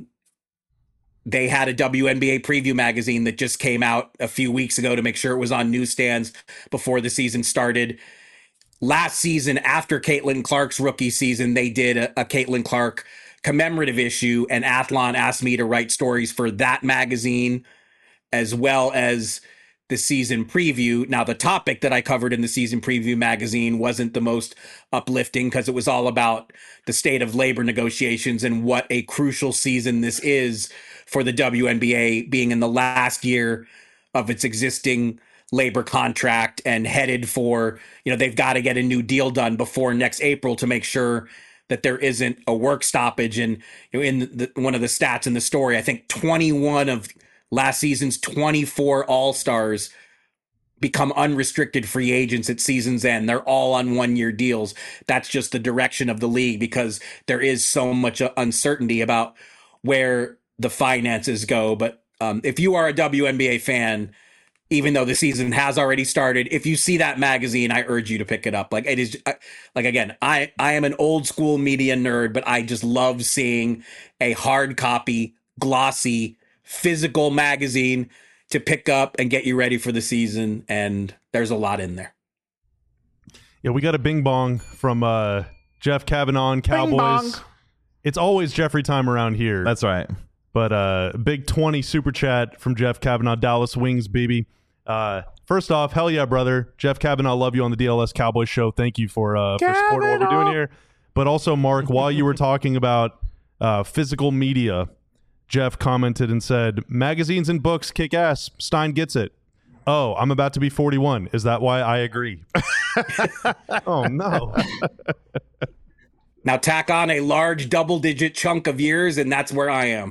they had a W N B A preview magazine that just came out a few weeks ago to make sure it was on newsstands before the season started. Last season, after Caitlin Clark's rookie season, they did a, a Caitlin Clark commemorative issue, and Athlon asked me to write stories for that magazine as well as the season preview. Now, the topic that I covered in the season preview magazine wasn't the most uplifting because it was all about the state of labor negotiations and what a crucial season this is for the W N B A, being in the last year of its existing labor contract and headed for, you know, they've got to get a new deal done before next April to make sure that there isn't a work stoppage. And you know, in the, one of the stats in the story, I think twenty-one of last season's twenty-four All-Stars become unrestricted free agents at season's end. They're all on one-year deals. That's just the direction of the league because there is so much uncertainty about where the finances go. But um, if you are a W N B A fan, even though the season has already started, if you see that magazine, I urge you to pick it up. Like it is, like again, I, I am an old school media nerd, but I just love seeing a hard copy, glossy, physical magazine to pick up and get you ready for the season. And there's a lot in there. Yeah, we got a bing bong from uh, Jeff Kavanaugh and Cowboys. It's always Jeffrey time around here. That's right. But uh, big twenty super chat from Jeff Kavanaugh, Dallas Wings, baby. Uh, first off, hell yeah, brother. Jeff Kavanaugh, love you on the D L S Cowboys show. Thank you for, uh, for supporting what we're doing here. But also, Mark, while you were talking about uh, physical media, Jeff commented and said, magazines and books kick ass. Stein gets it. Oh, I'm about to be forty-one. Is that why I agree? Oh, no. Now tack on a large double-digit chunk of years, and that's where I am.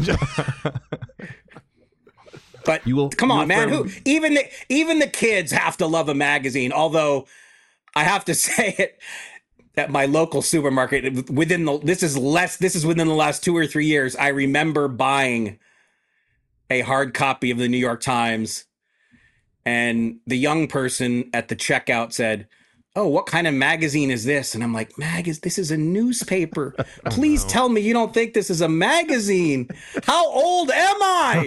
But you will, come you on, will man. firm- Who even the even the kids have to love a magazine. Although I have to say it at my local supermarket within the this is less this is within the last two or three years. I remember buying a hard copy of the New York Times, and the young person at the checkout said, "Oh, what kind of magazine is this?" And I'm like, "Mag is this is a newspaper. Please oh, no. tell me you don't think this is a magazine. How old am I?"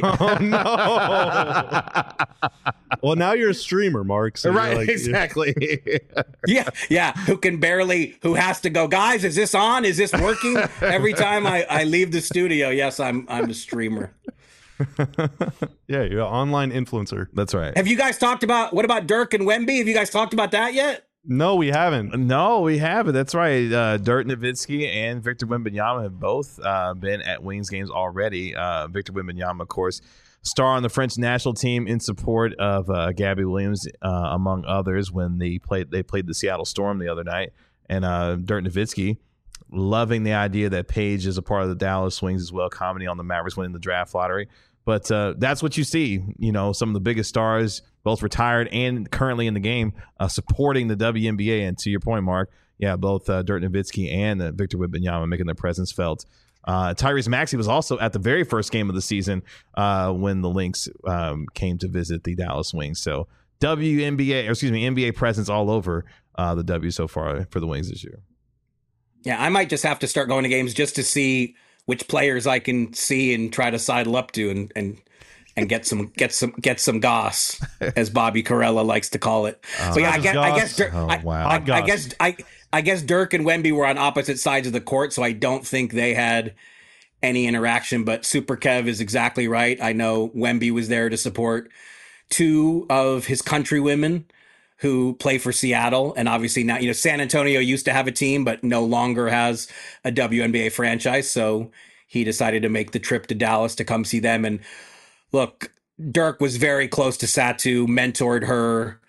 Oh no. Well, now you're a streamer, Mark. So right, like, exactly. yeah, yeah. Who can barely who has to go, guys, is this on? Is this working? Every time I, I leave the studio, yes, I'm I'm a streamer. Yeah, you're an online influencer. That's right. Have you guys talked about what about Dirk and Wemby? Have you guys talked about that yet? No, we haven't. No, we haven't. That's right. Uh, Dirk Nowitzki and Victor Wembanyama have both uh, been at Wings games already. Uh, Victor Wembanyama, of course, star on the French national team in support of uh, Gabby Williams, uh, among others, when they played they played the Seattle Storm the other night. And uh, Dirk Nowitzki, loving the idea that Paige is a part of the Dallas Wings as well, commenting on the Mavericks winning the draft lottery. But uh, that's what you see, you know, some of the biggest stars, both retired and currently in the game, uh, supporting the W N B A. And to your point, Mark, yeah, both uh, Dirk Nowitzki and uh, Victor Wembanyama making their presence felt. Uh, Tyrese Maxey was also at the very first game of the season uh, when the Lynx um, came to visit the Dallas Wings. So W N B A, or excuse me, N B A presence all over uh, the W so far for the Wings this year. Yeah, I might just have to start going to games just to see which players I can see and try to sidle up to and and and get some get some get some goss, as Bobby Carella likes to call it. Oh, but yeah, I guess, I guess Dirk, oh, I, wow. I, I guess I I guess Dirk and Wemby were on opposite sides of the court, so I don't think they had any interaction. But Super Kev is exactly right. I know Wemby was there to support two of his countrywomen who play for Seattle. And obviously now, you know, San Antonio used to have a team, but no longer has a W N B A franchise. So he decided to make the trip to Dallas to come see them. And look, Dirk was very close to Satu, mentored her,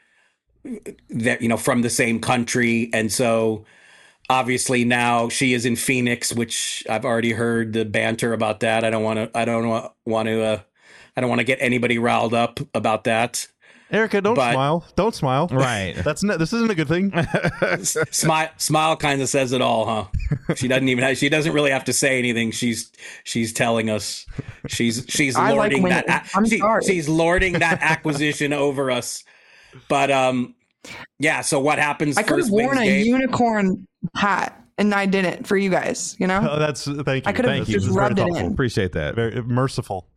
that, you know, from the same country. And so obviously now she is in Phoenix, which I've already heard the banter about that. I don't want to, I don't want to, uh, I don't want to get anybody riled up about that. Erica, don't but, smile. Don't smile. Right. That's not, this isn't a good thing. Smile, smile kind of says it all, huh? She doesn't even have, she doesn't really have to say anything. She's she's telling us. She's she's lording like that. I'm she, sorry. She's lording that acquisition over us. But um, yeah. So what happens? I could have worn a game? unicorn hat, and I didn't for you guys. You know. Oh, that's thank you. I could have just rubbed it in. Appreciate that. Very merciful.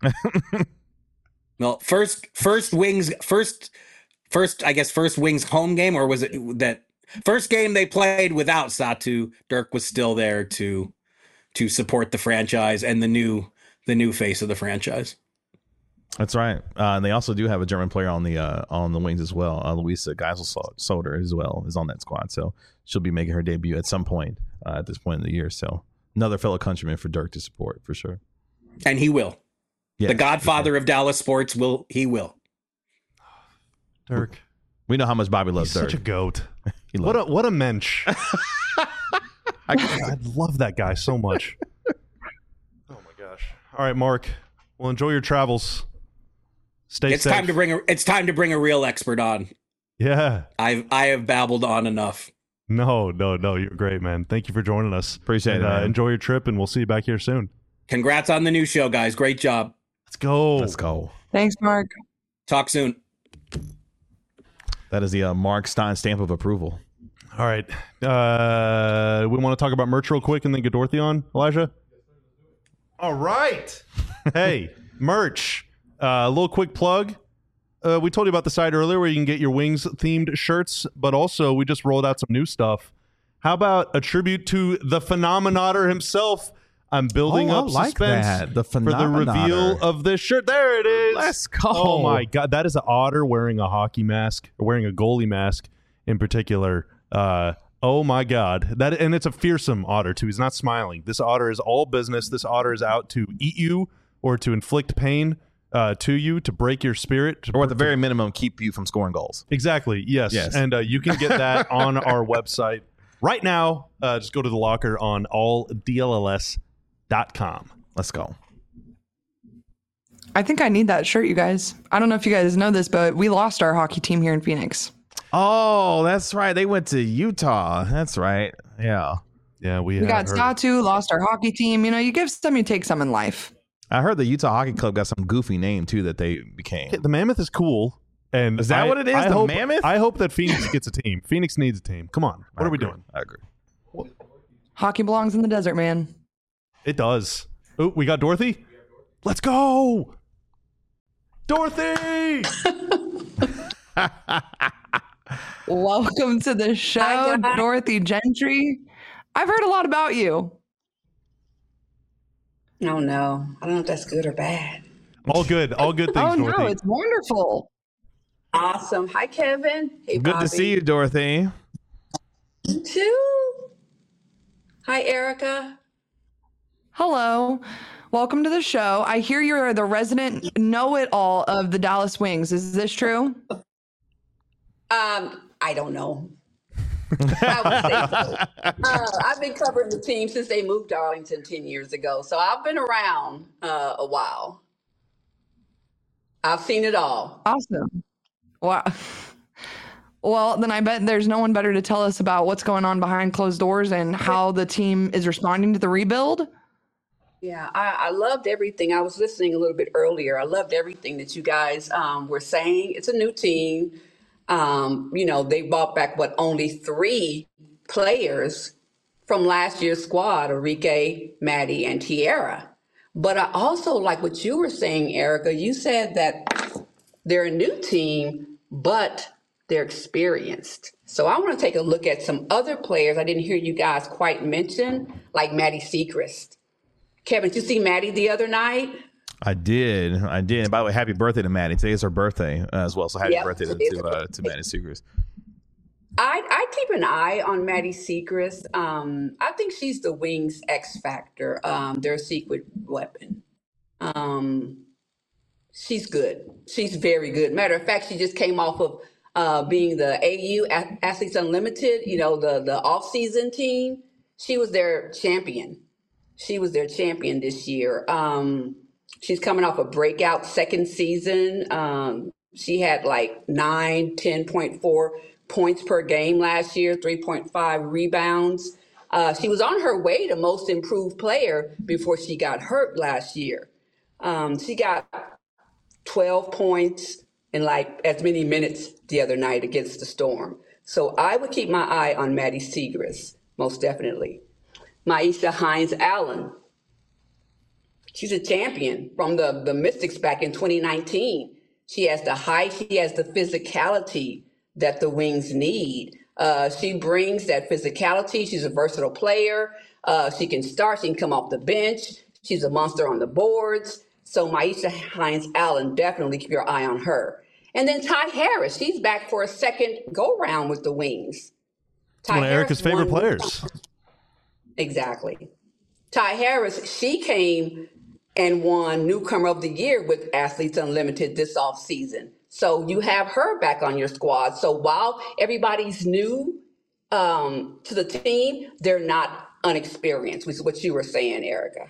Well, first, first Wings, first, first, I guess, first Wings home game, or was it that first game they played without Satu? Dirk was still there to to support the franchise and the new the new face of the franchise. That's right, uh, and they also do have a German player on the uh, on the Wings as well. Uh, Luisa Geisel-Soder as well is on that squad, so she'll be making her debut at some point uh, at this point in the year. So another fellow countryman for Dirk to support for sure, and he will. Yeah, the godfather sure. of Dallas sports will he will. Dirk. We know how much Bobby loves He's Dirk. Such a goat. what a what a mensch. I, I love that guy so much. Oh my gosh! All right, Mark. Well, enjoy your travels. Stay It's safe. time to bring a it's time to bring a real expert on. Yeah. I've I have babbled on enough. No, no, no. You're great, man. Thank you for joining us. Appreciate and, it. Uh, Man. enjoy your trip, and we'll see you back here soon. Congrats on the new show, guys. Great job. Let's go. Let's go. Thanks, Mark. Talk soon. That is the uh, Mark Stein stamp of approval. All right. Uh, we want to talk about merch real quick and then get Dorothy on, Elijah? All right. Hey, merch. Uh, a little quick plug. Uh, we told you about the site earlier where you can get your Wings themed shirts, but also we just rolled out some new stuff. How about a tribute to the Phenomenator himself? I'm building Oh, I up like suspense that. The for the Phenomenator. reveal of this shirt. There it is. Let's go. Oh my God, that is an otter wearing a hockey mask, or wearing a goalie mask in particular. Uh, oh my God, that and it's a fearsome otter too. He's not smiling. This otter is all business. This otter is out to eat you or to inflict pain uh, to you, to break your spirit, to Or at the very minimum, keep you from scoring goals. Exactly. Yes. Yes. And uh, you can get that on our website right now. Uh, just go to the locker on all D L L S dot com. Let's go. I think I need that shirt, you guys. I don't know if you guys know this, but we lost our hockey team here in Phoenix. Oh, that's right. They went to Utah. That's right. Yeah. Yeah, we, We have got Satu, lost our hockey team. You know, you give some, you take some in life. I heard the Utah Hockey Club got some goofy name, too, that they became. The Mammoth is cool. And Is that I- what it is? I The hope, Mammoth? I hope that Phoenix gets a team. Phoenix needs a team. Come on. What I are we agree. doing? I agree. Hockey belongs in the desert, man. It does. Oh, we got Dorothy? Let's go. Dorothy! Welcome to the show, Hi, guys. Dorothy Gentry. I've heard a lot about you. Oh no, I don't know if that's good or bad. All good. All good things, Oh, Dorothy. no, it's wonderful. Awesome. Hi, Kevin. Hey, Good Bobby. to see you, Dorothy. You too. Hi, Erica. Hello. Welcome to the show. I hear you're the resident know-it-all of the Dallas Wings. Is this true? Um, I don't know. I would say so. Uh, I've been covering the team since they moved to Arlington ten years ago, so I've been around uh, a while. I've seen it all. Awesome. Wow. Well, then I bet there's no one better to tell us about what's going on behind closed doors and how the team is responding to the rebuild. Yeah, I, I loved everything. I was listening a little bit earlier. I loved everything that you guys um, were saying. It's a new team. Um, you know, they brought back what only three players from last year's squad: Enrique, Maddie, and Tierra. But I also like what you were saying, Erica. You said that they're a new team, but they're experienced. So I want to take a look at some other players I didn't hear you guys quite mention, like Maddie Sechrist. Kevin, did you see Maddie the other night? I did. I did. And by the way, happy birthday to Maddie. Today is her birthday uh, as well. So happy Yep, birthday to, it is to, her uh, to Maddie Sechrist. I I keep an eye on Maddie Sechrist. Um, I think she's the Wings X factor. Um, their secret weapon. Um, she's good. She's very good. Matter of fact, she just came off of uh, being the A U Athletes Unlimited. You know, the the off season team. She was their champion. She was their champion this year. Um, she's coming off a breakout second season. Um, she had like nine, ten point four points per game last year, three point five rebounds. Uh, she was on her way to most improved player before she got hurt last year. Um, she got twelve points in like as many minutes the other night against the Storm. So I would keep my eye on Maddie Sechrist, most definitely. Maisha Hines-Allen. She's a champion from the, the Mystics back in twenty nineteen. She has the height, she has the physicality that the Wings need. Uh, she brings that physicality. She's a versatile player. Uh, she can start, she can come off the bench. She's a monster on the boards. So Maisha Hines-Allen, definitely keep your eye on her. And then Ty Harris, she's back for a second go round with the Wings. Ty One of Erica's Harris favorite won- players. Exactly. Ty Harris, she came and won Newcomer of the Year with Athletes Unlimited this offseason. So you have her back on your squad. So while everybody's new um, to the team, they're not unexperienced, which is what you were saying, Erica.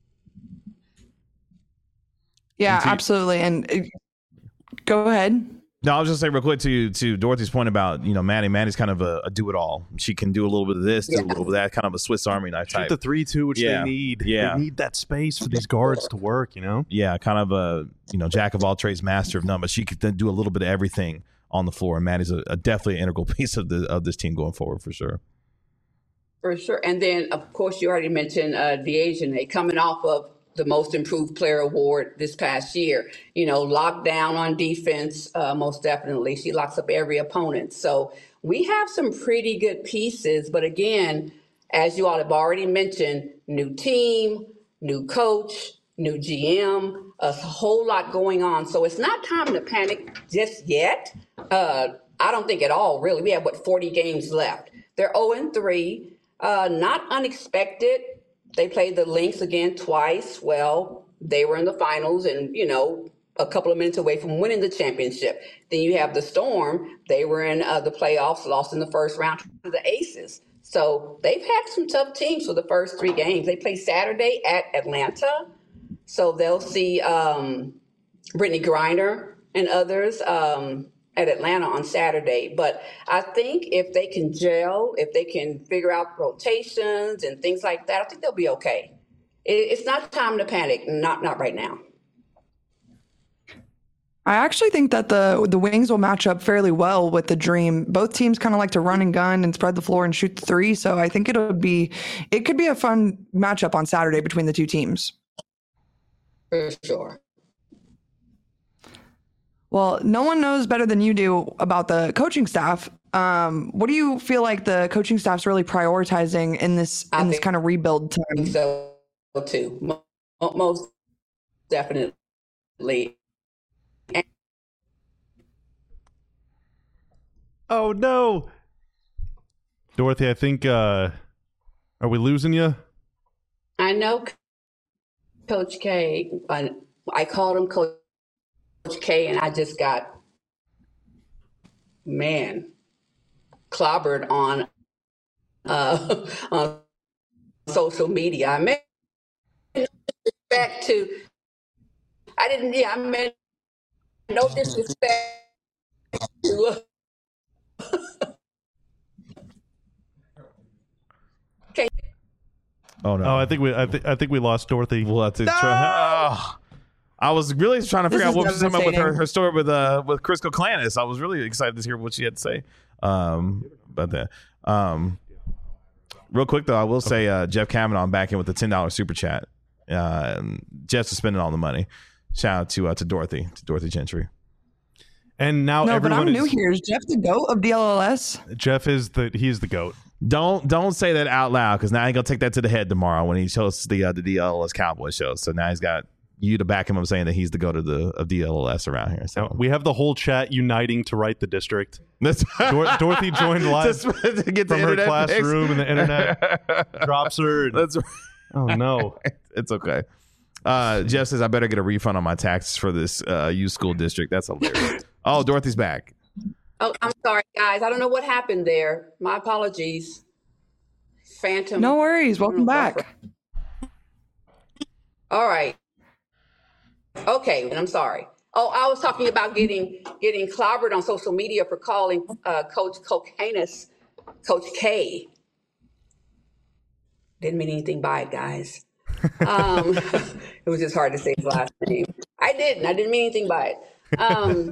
Yeah, to- absolutely. And uh, go ahead. No, I was just saying real quick to to Dorothy's point about, you know, Maddie. Maddie's kind of a, a do-it-all. She can do a little bit of this, do Yeah. a little bit of that, kind of a Swiss Army knife Shoot type. the three two, which Yeah. they need. Yeah. They need that space for these guards to work, you know? Yeah, kind of a, you know, jack of all trades, master of none, but she could then do a little bit of everything on the floor. And Maddie's a, a definitely an integral piece of the of this team going forward for sure. For sure. And then, of course, you already mentioned uh, Dejanay coming off of the Most Improved Player Award this past year. You know, locked down on defense, uh, most definitely. She locks up every opponent. So we have some pretty good pieces. But again, as you all have already mentioned, new team, new coach, new G M, a whole lot going on. So it's not time to panic just yet. Uh, I don't think at all, really. We have, what, forty games left. They're oh and three. Uh, not unexpected. They played the Lynx again twice. Well, they were in the finals and, you know, a couple of minutes away from winning the championship. Then you have the Storm. They were in uh, the playoffs, lost in the first round to the Aces. So they've had some tough teams for the first three games. They play Saturday at Atlanta. So they'll see um, Brittany Griner and others um, at Atlanta on Saturday. But I think if they can gel, if they can figure out rotations and things like that, I think they'll be okay. It, it's not time to panic. Not not right now. I actually think that the the Wings will match up fairly well with the Dream. Both teams kind of like to run and gun and spread the floor and shoot the three. So I think it'll be it could be a fun matchup on Saturday between the two teams. For sure. Well, no one knows better than you do about the coaching staff. Um, what do you feel like the coaching staff's really prioritizing in this I in this think- kind of rebuild I think time? so too. Mo- Most definitely. Oh, no. Dorothy, I think, uh, are we losing you? I know Coach K. I, I called him Coach K, and I just got, man, clobbered on uh, on social media. I meant back to, I didn't, yeah, I meant no disrespect to. Oh no! Oh, I think we, I, th- I think we lost Dorothy. We'll have to try. Oh. I was really trying to figure This out what is she was talking about with her, devastating. her story with uh with Chris Clanis. I was really excited to hear what she had to say um about that. Um, real quick though, I will say uh, Jeff Kavanaugh back in with the ten dollar super chat. Uh, Jeff's spending all the money. Shout out to uh, to Dorothy to Dorothy Gentry. And now No, but everyone I'm new is, here. Is Jeff the GOAT of D L L S? Jeff is the, he's the GOAT. Don't don't say that out loud because now he's gonna take that to the head tomorrow when he shows the uh, the D L L S Cowboys show. So now he's got you to back him up saying that he's the go to the of D L L S around here. So Now, we have the whole chat uniting to write the district. That's Dor- Dorothy joined live Just to get the from her internet classroom fixed. and the internet drops her. and- That's oh, no. it's okay. Uh, Jeff says I better get a refund on my taxes for this uh, youth school district. That's hilarious. Oh, Dorothy's back. Oh, I'm sorry, guys. I don't know what happened there. My apologies. Phantom. No worries. Welcome back. All right. Okay, I'm sorry. Oh, I was talking about getting getting clobbered on social media for calling uh, Coach Kokanis Coach K. Didn't mean anything by it, guys. Um, it was just hard to say his last name. I didn't. I didn't mean anything by it. Um,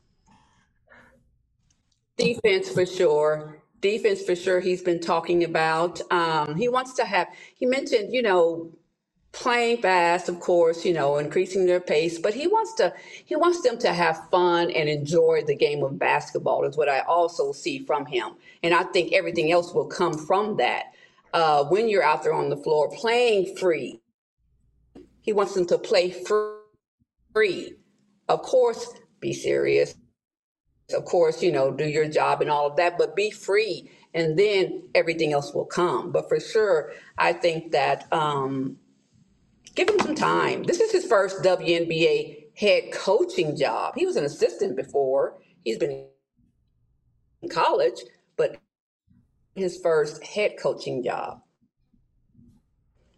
defense for sure. Defense for sure. He's been talking about. Um, he wants to have. He mentioned, you know, playing fast, of course, you know, increasing their pace, but he wants to he wants them to have fun and enjoy the game of basketball is what I also see from him. And I think everything else will come from that. Uh, when you're out there on the floor playing free, he wants them to play free. Of course, be serious. Of course, you know, do your job and all of that, but be free, and then everything else will come. But for sure, I think that um, give him some time. This is his first W N B A head coaching job. He was an assistant before. He's been in college, but his first head coaching job.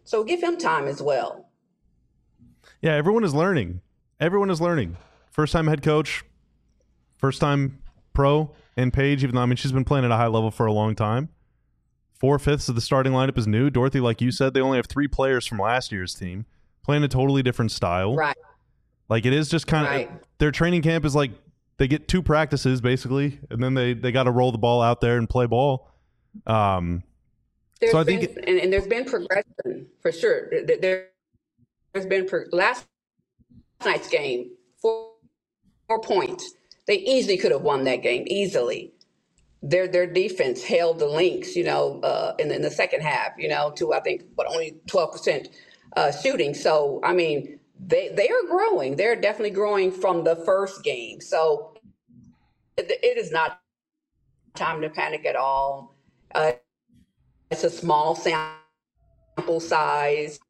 So give him time as well. Yeah, everyone is learning. Everyone is learning. First time head coach, first time pro in Paige, even though I mean she's been playing at a high level for a long time. Four fifths of the starting lineup is new. Dorothy, like you said, they only have three players from last year's team playing a totally different style. Right. Like it is just kind of Right. their training camp is like they get two practices basically, and then they they got to roll the ball out there and play ball. Um, There's so I been, think and, and there's been progression for sure. There, there- there's been pro- last night's game, four, four points. They easily could have won that game easily. Their their defense held the Lynx, you know, uh, in, in the second half, you know, to I think but only twelve percent uh, shooting. So I mean, they they are growing. They're definitely growing from the first game. So it, it is not time to panic at all. Uh, it's a small sample size.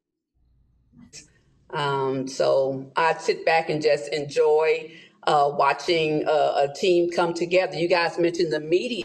Um, so I sit back and just enjoy uh, watching uh, a team come together. You guys mentioned the media,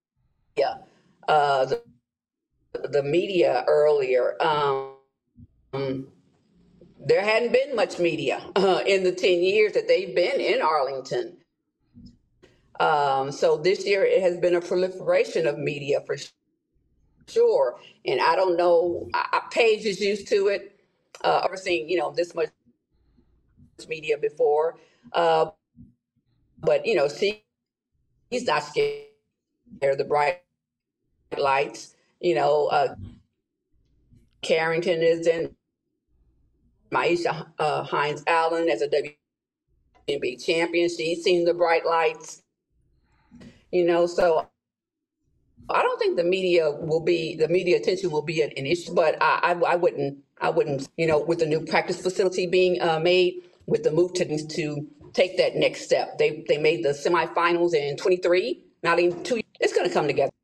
uh, the, the media earlier. Um, there hadn't been much media uh, in the ten years that they've been in Arlington. Um, so this year it has been a proliferation of media for sure. And I don't know, I, I, Paige is used to it. Uh, ever seen, you know, this much media before. Uh, but, you know, she, he's not scared of the bright lights. You know, uh, Carrington is in, Maisha uh, Hines Allen as a W N B A champion. She's seen the bright lights. You know, so I don't think the media will be, the media attention will be an, an issue, but I, I, I wouldn't, I wouldn't, you know, with the new practice facility being uh, made, with the move to to take that next step. They they made the semifinals in twenty-three, not even two. It's going to come together.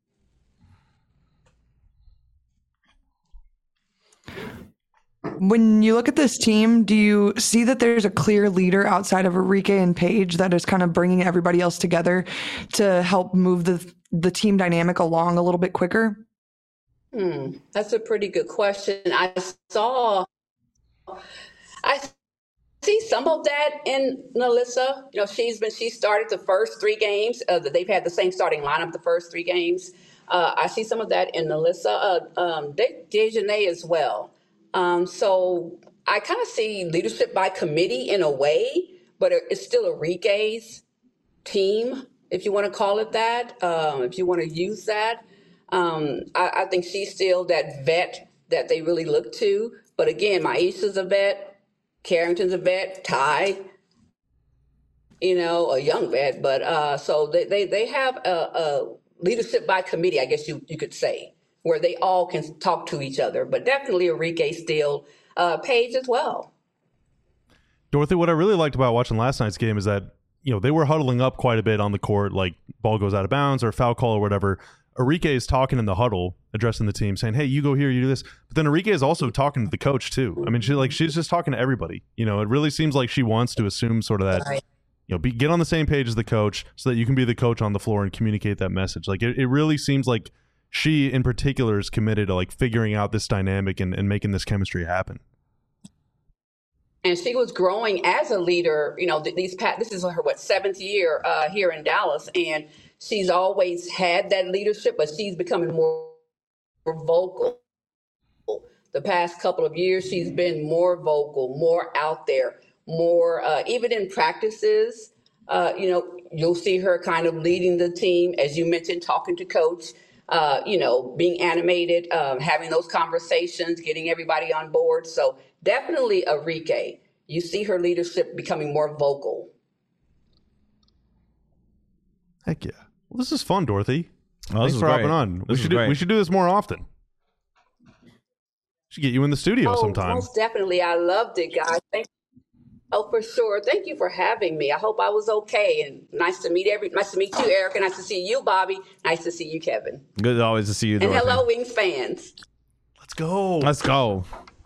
When you look at this team, do you see that there's a clear leader outside of Arike and Paige that is kind of bringing everybody else together to help move the the team dynamic along a little bit quicker? Hmm, that's a pretty good question. I saw, I see some of that in NaLyssa. You know, she's been, she started the first three games. Uh, they've had the same starting lineup the first three games. Uh, I see some of that in NaLyssa. Uh, um, De- Dejanay as well. Um, so I kind of see leadership by committee in a way, but it's still Arike's team, if you want to call it that, um, if you want to use that. Um, I, I think she's still that vet that they really look to. But again, Maisha's a vet, Carrington's a vet, Ty, you know, a young vet. But uh, so they, they, they have a, a leadership by committee, I guess you, you could say, where they all can talk to each other. But definitely Arike still, uh, Paige as well. Dorothy, what I really liked about watching last night's game is that, you know, they were huddling up quite a bit on the court, like ball goes out of bounds or foul call or whatever. Arike is talking in the huddle, addressing the team, saying, hey, you go here, you do this. But then Arike is also talking to the coach, too. I mean, she like she's just talking to everybody. You know, it really seems like she wants to assume sort of that, you know, be, get on the same page as the coach so that you can be the coach on the floor and communicate that message. Like, it, it really seems like she, in particular, is committed to, like, figuring out this dynamic and, and making this chemistry happen. And she was growing as a leader, you know, these past, this is her, what, seventh year uh, here in Dallas. And she's always had that leadership, but she's becoming more, more vocal. The past couple of years, she's been more vocal, more out there, more, uh, even in practices, uh, you know, you'll see her kind of leading the team, as you mentioned, talking to coach, uh, you know, being animated, um, having those conversations, getting everybody on board. So definitely Arike. You see her leadership becoming more vocal. Heck yeah. Well, this is fun, Dorothy. Oh, Thanks for great. hopping on. This We is should do, great. we should do this more often. Should get you in the studio Oh, sometime. most definitely. I loved it, guys. Thank Oh, for sure. Thank you for having me. I hope I was okay. And nice to meet every. Nice to meet you, Erica. Nice to see you, Bobby. Nice to see you, Kevin. Good always to see you, And Dorothy. hello, Wings fans. Let's go. Let's go.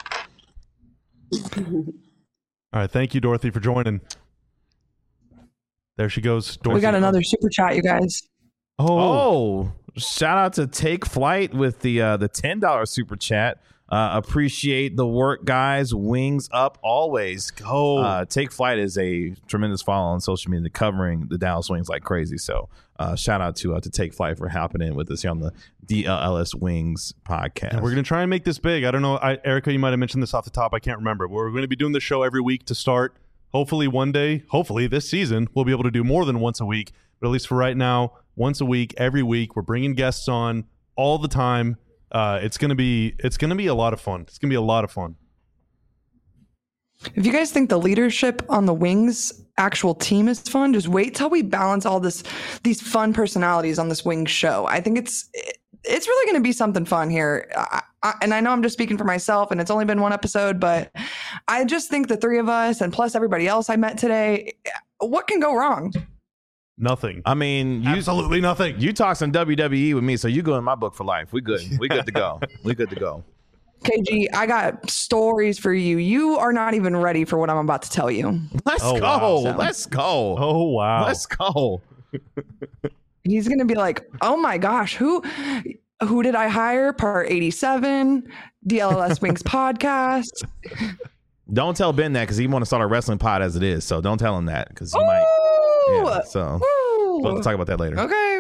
All right. Thank you, Dorothy, for joining. There she goes. Dorothy. We got another super chat, you guys. Oh. Oh, shout out to Take Flight with the uh, the ten dollar super chat. Uh, appreciate the work, guys. Wings up always. Go. Uh, Take Flight is a tremendous follow on social media, covering the Dallas Wings like crazy. So uh, shout out to uh, to Take Flight for hopping in with us here on the D L L S Wings podcast. And we're going to try and make this big. I don't know. I, Erica, you might have mentioned this off the top. I can't remember. We're going to be doing the show every week to start. Hopefully one day, hopefully this season, we'll be able to do more than once a week. But at least for right now, once a week, every week, we're bringing guests on all the time. Uh, it's gonna be it's gonna be a lot of fun. It's gonna be a lot of fun. If you guys think the leadership on the Wings actual team is fun, just wait till we balance all this these fun personalities on this Wings show. I think it's it's really going to be something fun here. I, I, and I know I'm just speaking for myself, and it's only been one episode, but I just think the three of us and plus everybody else I met today, what can go wrong? Nothing. I mean, you, absolutely nothing. You talk some W W E with me, so you go in my book for life. We good. We good to go. We good to go. K G, I got stories for you. You are not even ready for what I'm about to tell you. Let's oh, go. Wow. So. Let's go. Oh, wow. Let's go. He's going to be like, oh my gosh, who who did I hire? Part eighty-seven, D L L S Wings podcast. Don't tell Ben that because he want to start a wrestling pod as it is. So don't tell him that because he Ooh! might. Yeah, so Ooh! we'll talk about that later. Okay.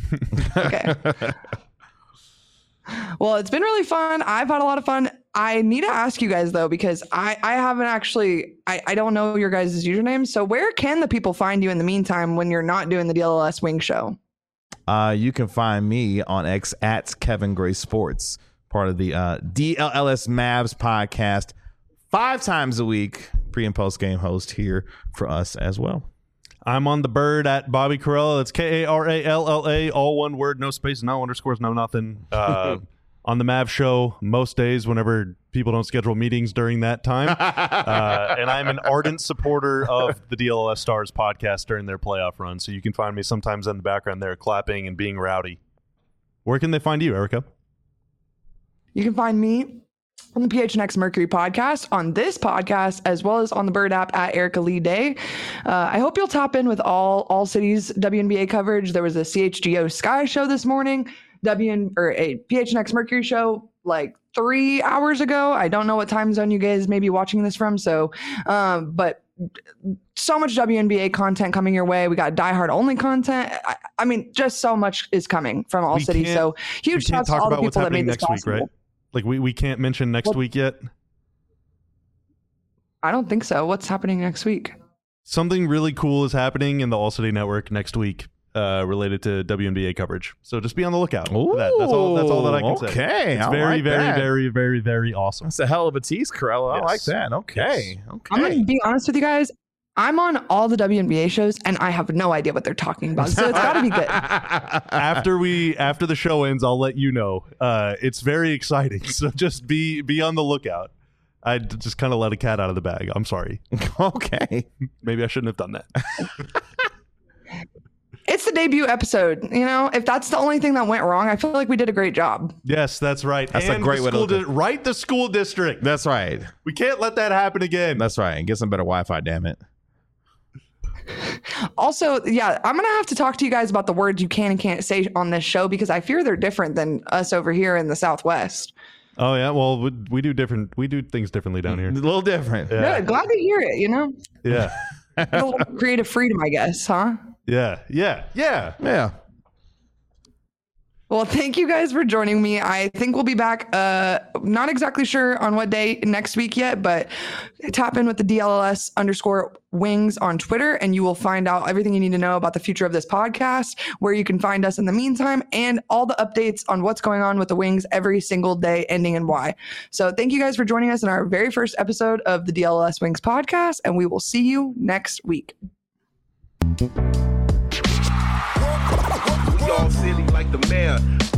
Okay. Well, it's been really fun. I've had a lot of fun. I need to ask you guys though, because I, I haven't actually, I, I don't know your guys' usernames. So where can the people find you in the meantime when you're not doing the D L L S Wing Show? Uh, you can find me on X at Kevin Gray Sports, part of the uh, D L L S Mavs podcast, five times a week, pre and post game host here for us as well. I'm on the bird at Bobby Carella. That's K A R A L L A, all one word, no spaces, no underscores, no nothing. Uh, on the Mav show most days whenever people don't schedule meetings during that time. Uh, and I'm an ardent supporter of the D L L S Stars podcast during their playoff run. So you can find me sometimes in the background there clapping and being rowdy. Where can they find you, Erica? You can find me on the P H N X Mercury podcast, on this podcast, as well as on the Bird app at Erica Lee Day. Uh, I hope you'll tap in with all all cities W N B A coverage. There was a C H G O Sky show this morning, W or a P H N X Mercury show like three hours ago. I don't know what time zone you guys may be watching this from. So, um, but so much W N B A content coming your way. We got diehard only content. I, I mean, just so much is coming from all We cities. So huge shouts to all the people that made this next possible. week, right? Like we, we can't mention next What? week yet. I don't think so. What's happening next week? Something really cool is happening in the All City Network next week, uh, related to W N B A coverage. So just be on the lookout for that. That's all. That's all that I can say. Okay, It's I very, like very, that. very, very, very awesome. That's a hell of a tease, Carella. I Yes. like that. Okay. Okay. I'm going to be honest with you guys. I'm on all the W N B A shows and I have no idea what they're talking about. So it's got to be good. After we after the show ends, I'll let you know. Uh, it's very exciting. So just be be on the lookout. I d- just kind of let a cat out of the bag. I'm sorry. Okay. Maybe I shouldn't have done that. It's the debut episode. You know, if that's the only thing that went wrong, I feel like we did a great job. Yes, that's right. That's a And great the way to school look at di- right the school district. That's right. We can't let that happen again. That's right. And get some better Wi-Fi, damn it. Also, yeah, I'm going to have to talk to you guys about the words you can and can't say on this show because I fear they're different than us over here in the Southwest. Oh yeah, well we, we do different. We do things differently down here. A little different. Yeah. Good. Glad to hear it, you know? Yeah, A little creative freedom, I guess, huh? yeah, yeah, yeah. Yeah. Well, thank you guys for joining me. I think we'll be back. Uh, not exactly sure on what day next week yet, but tap in with the D L L S underscore wings on Twitter and you will find out everything you need to know about the future of this podcast, where you can find us in the meantime, and all the updates on what's going on with the Wings every single day, ending in Y. So thank you guys for joining us in our very first episode of the D L L S Wings podcast, and we will see you next week. We all silly like the mayor.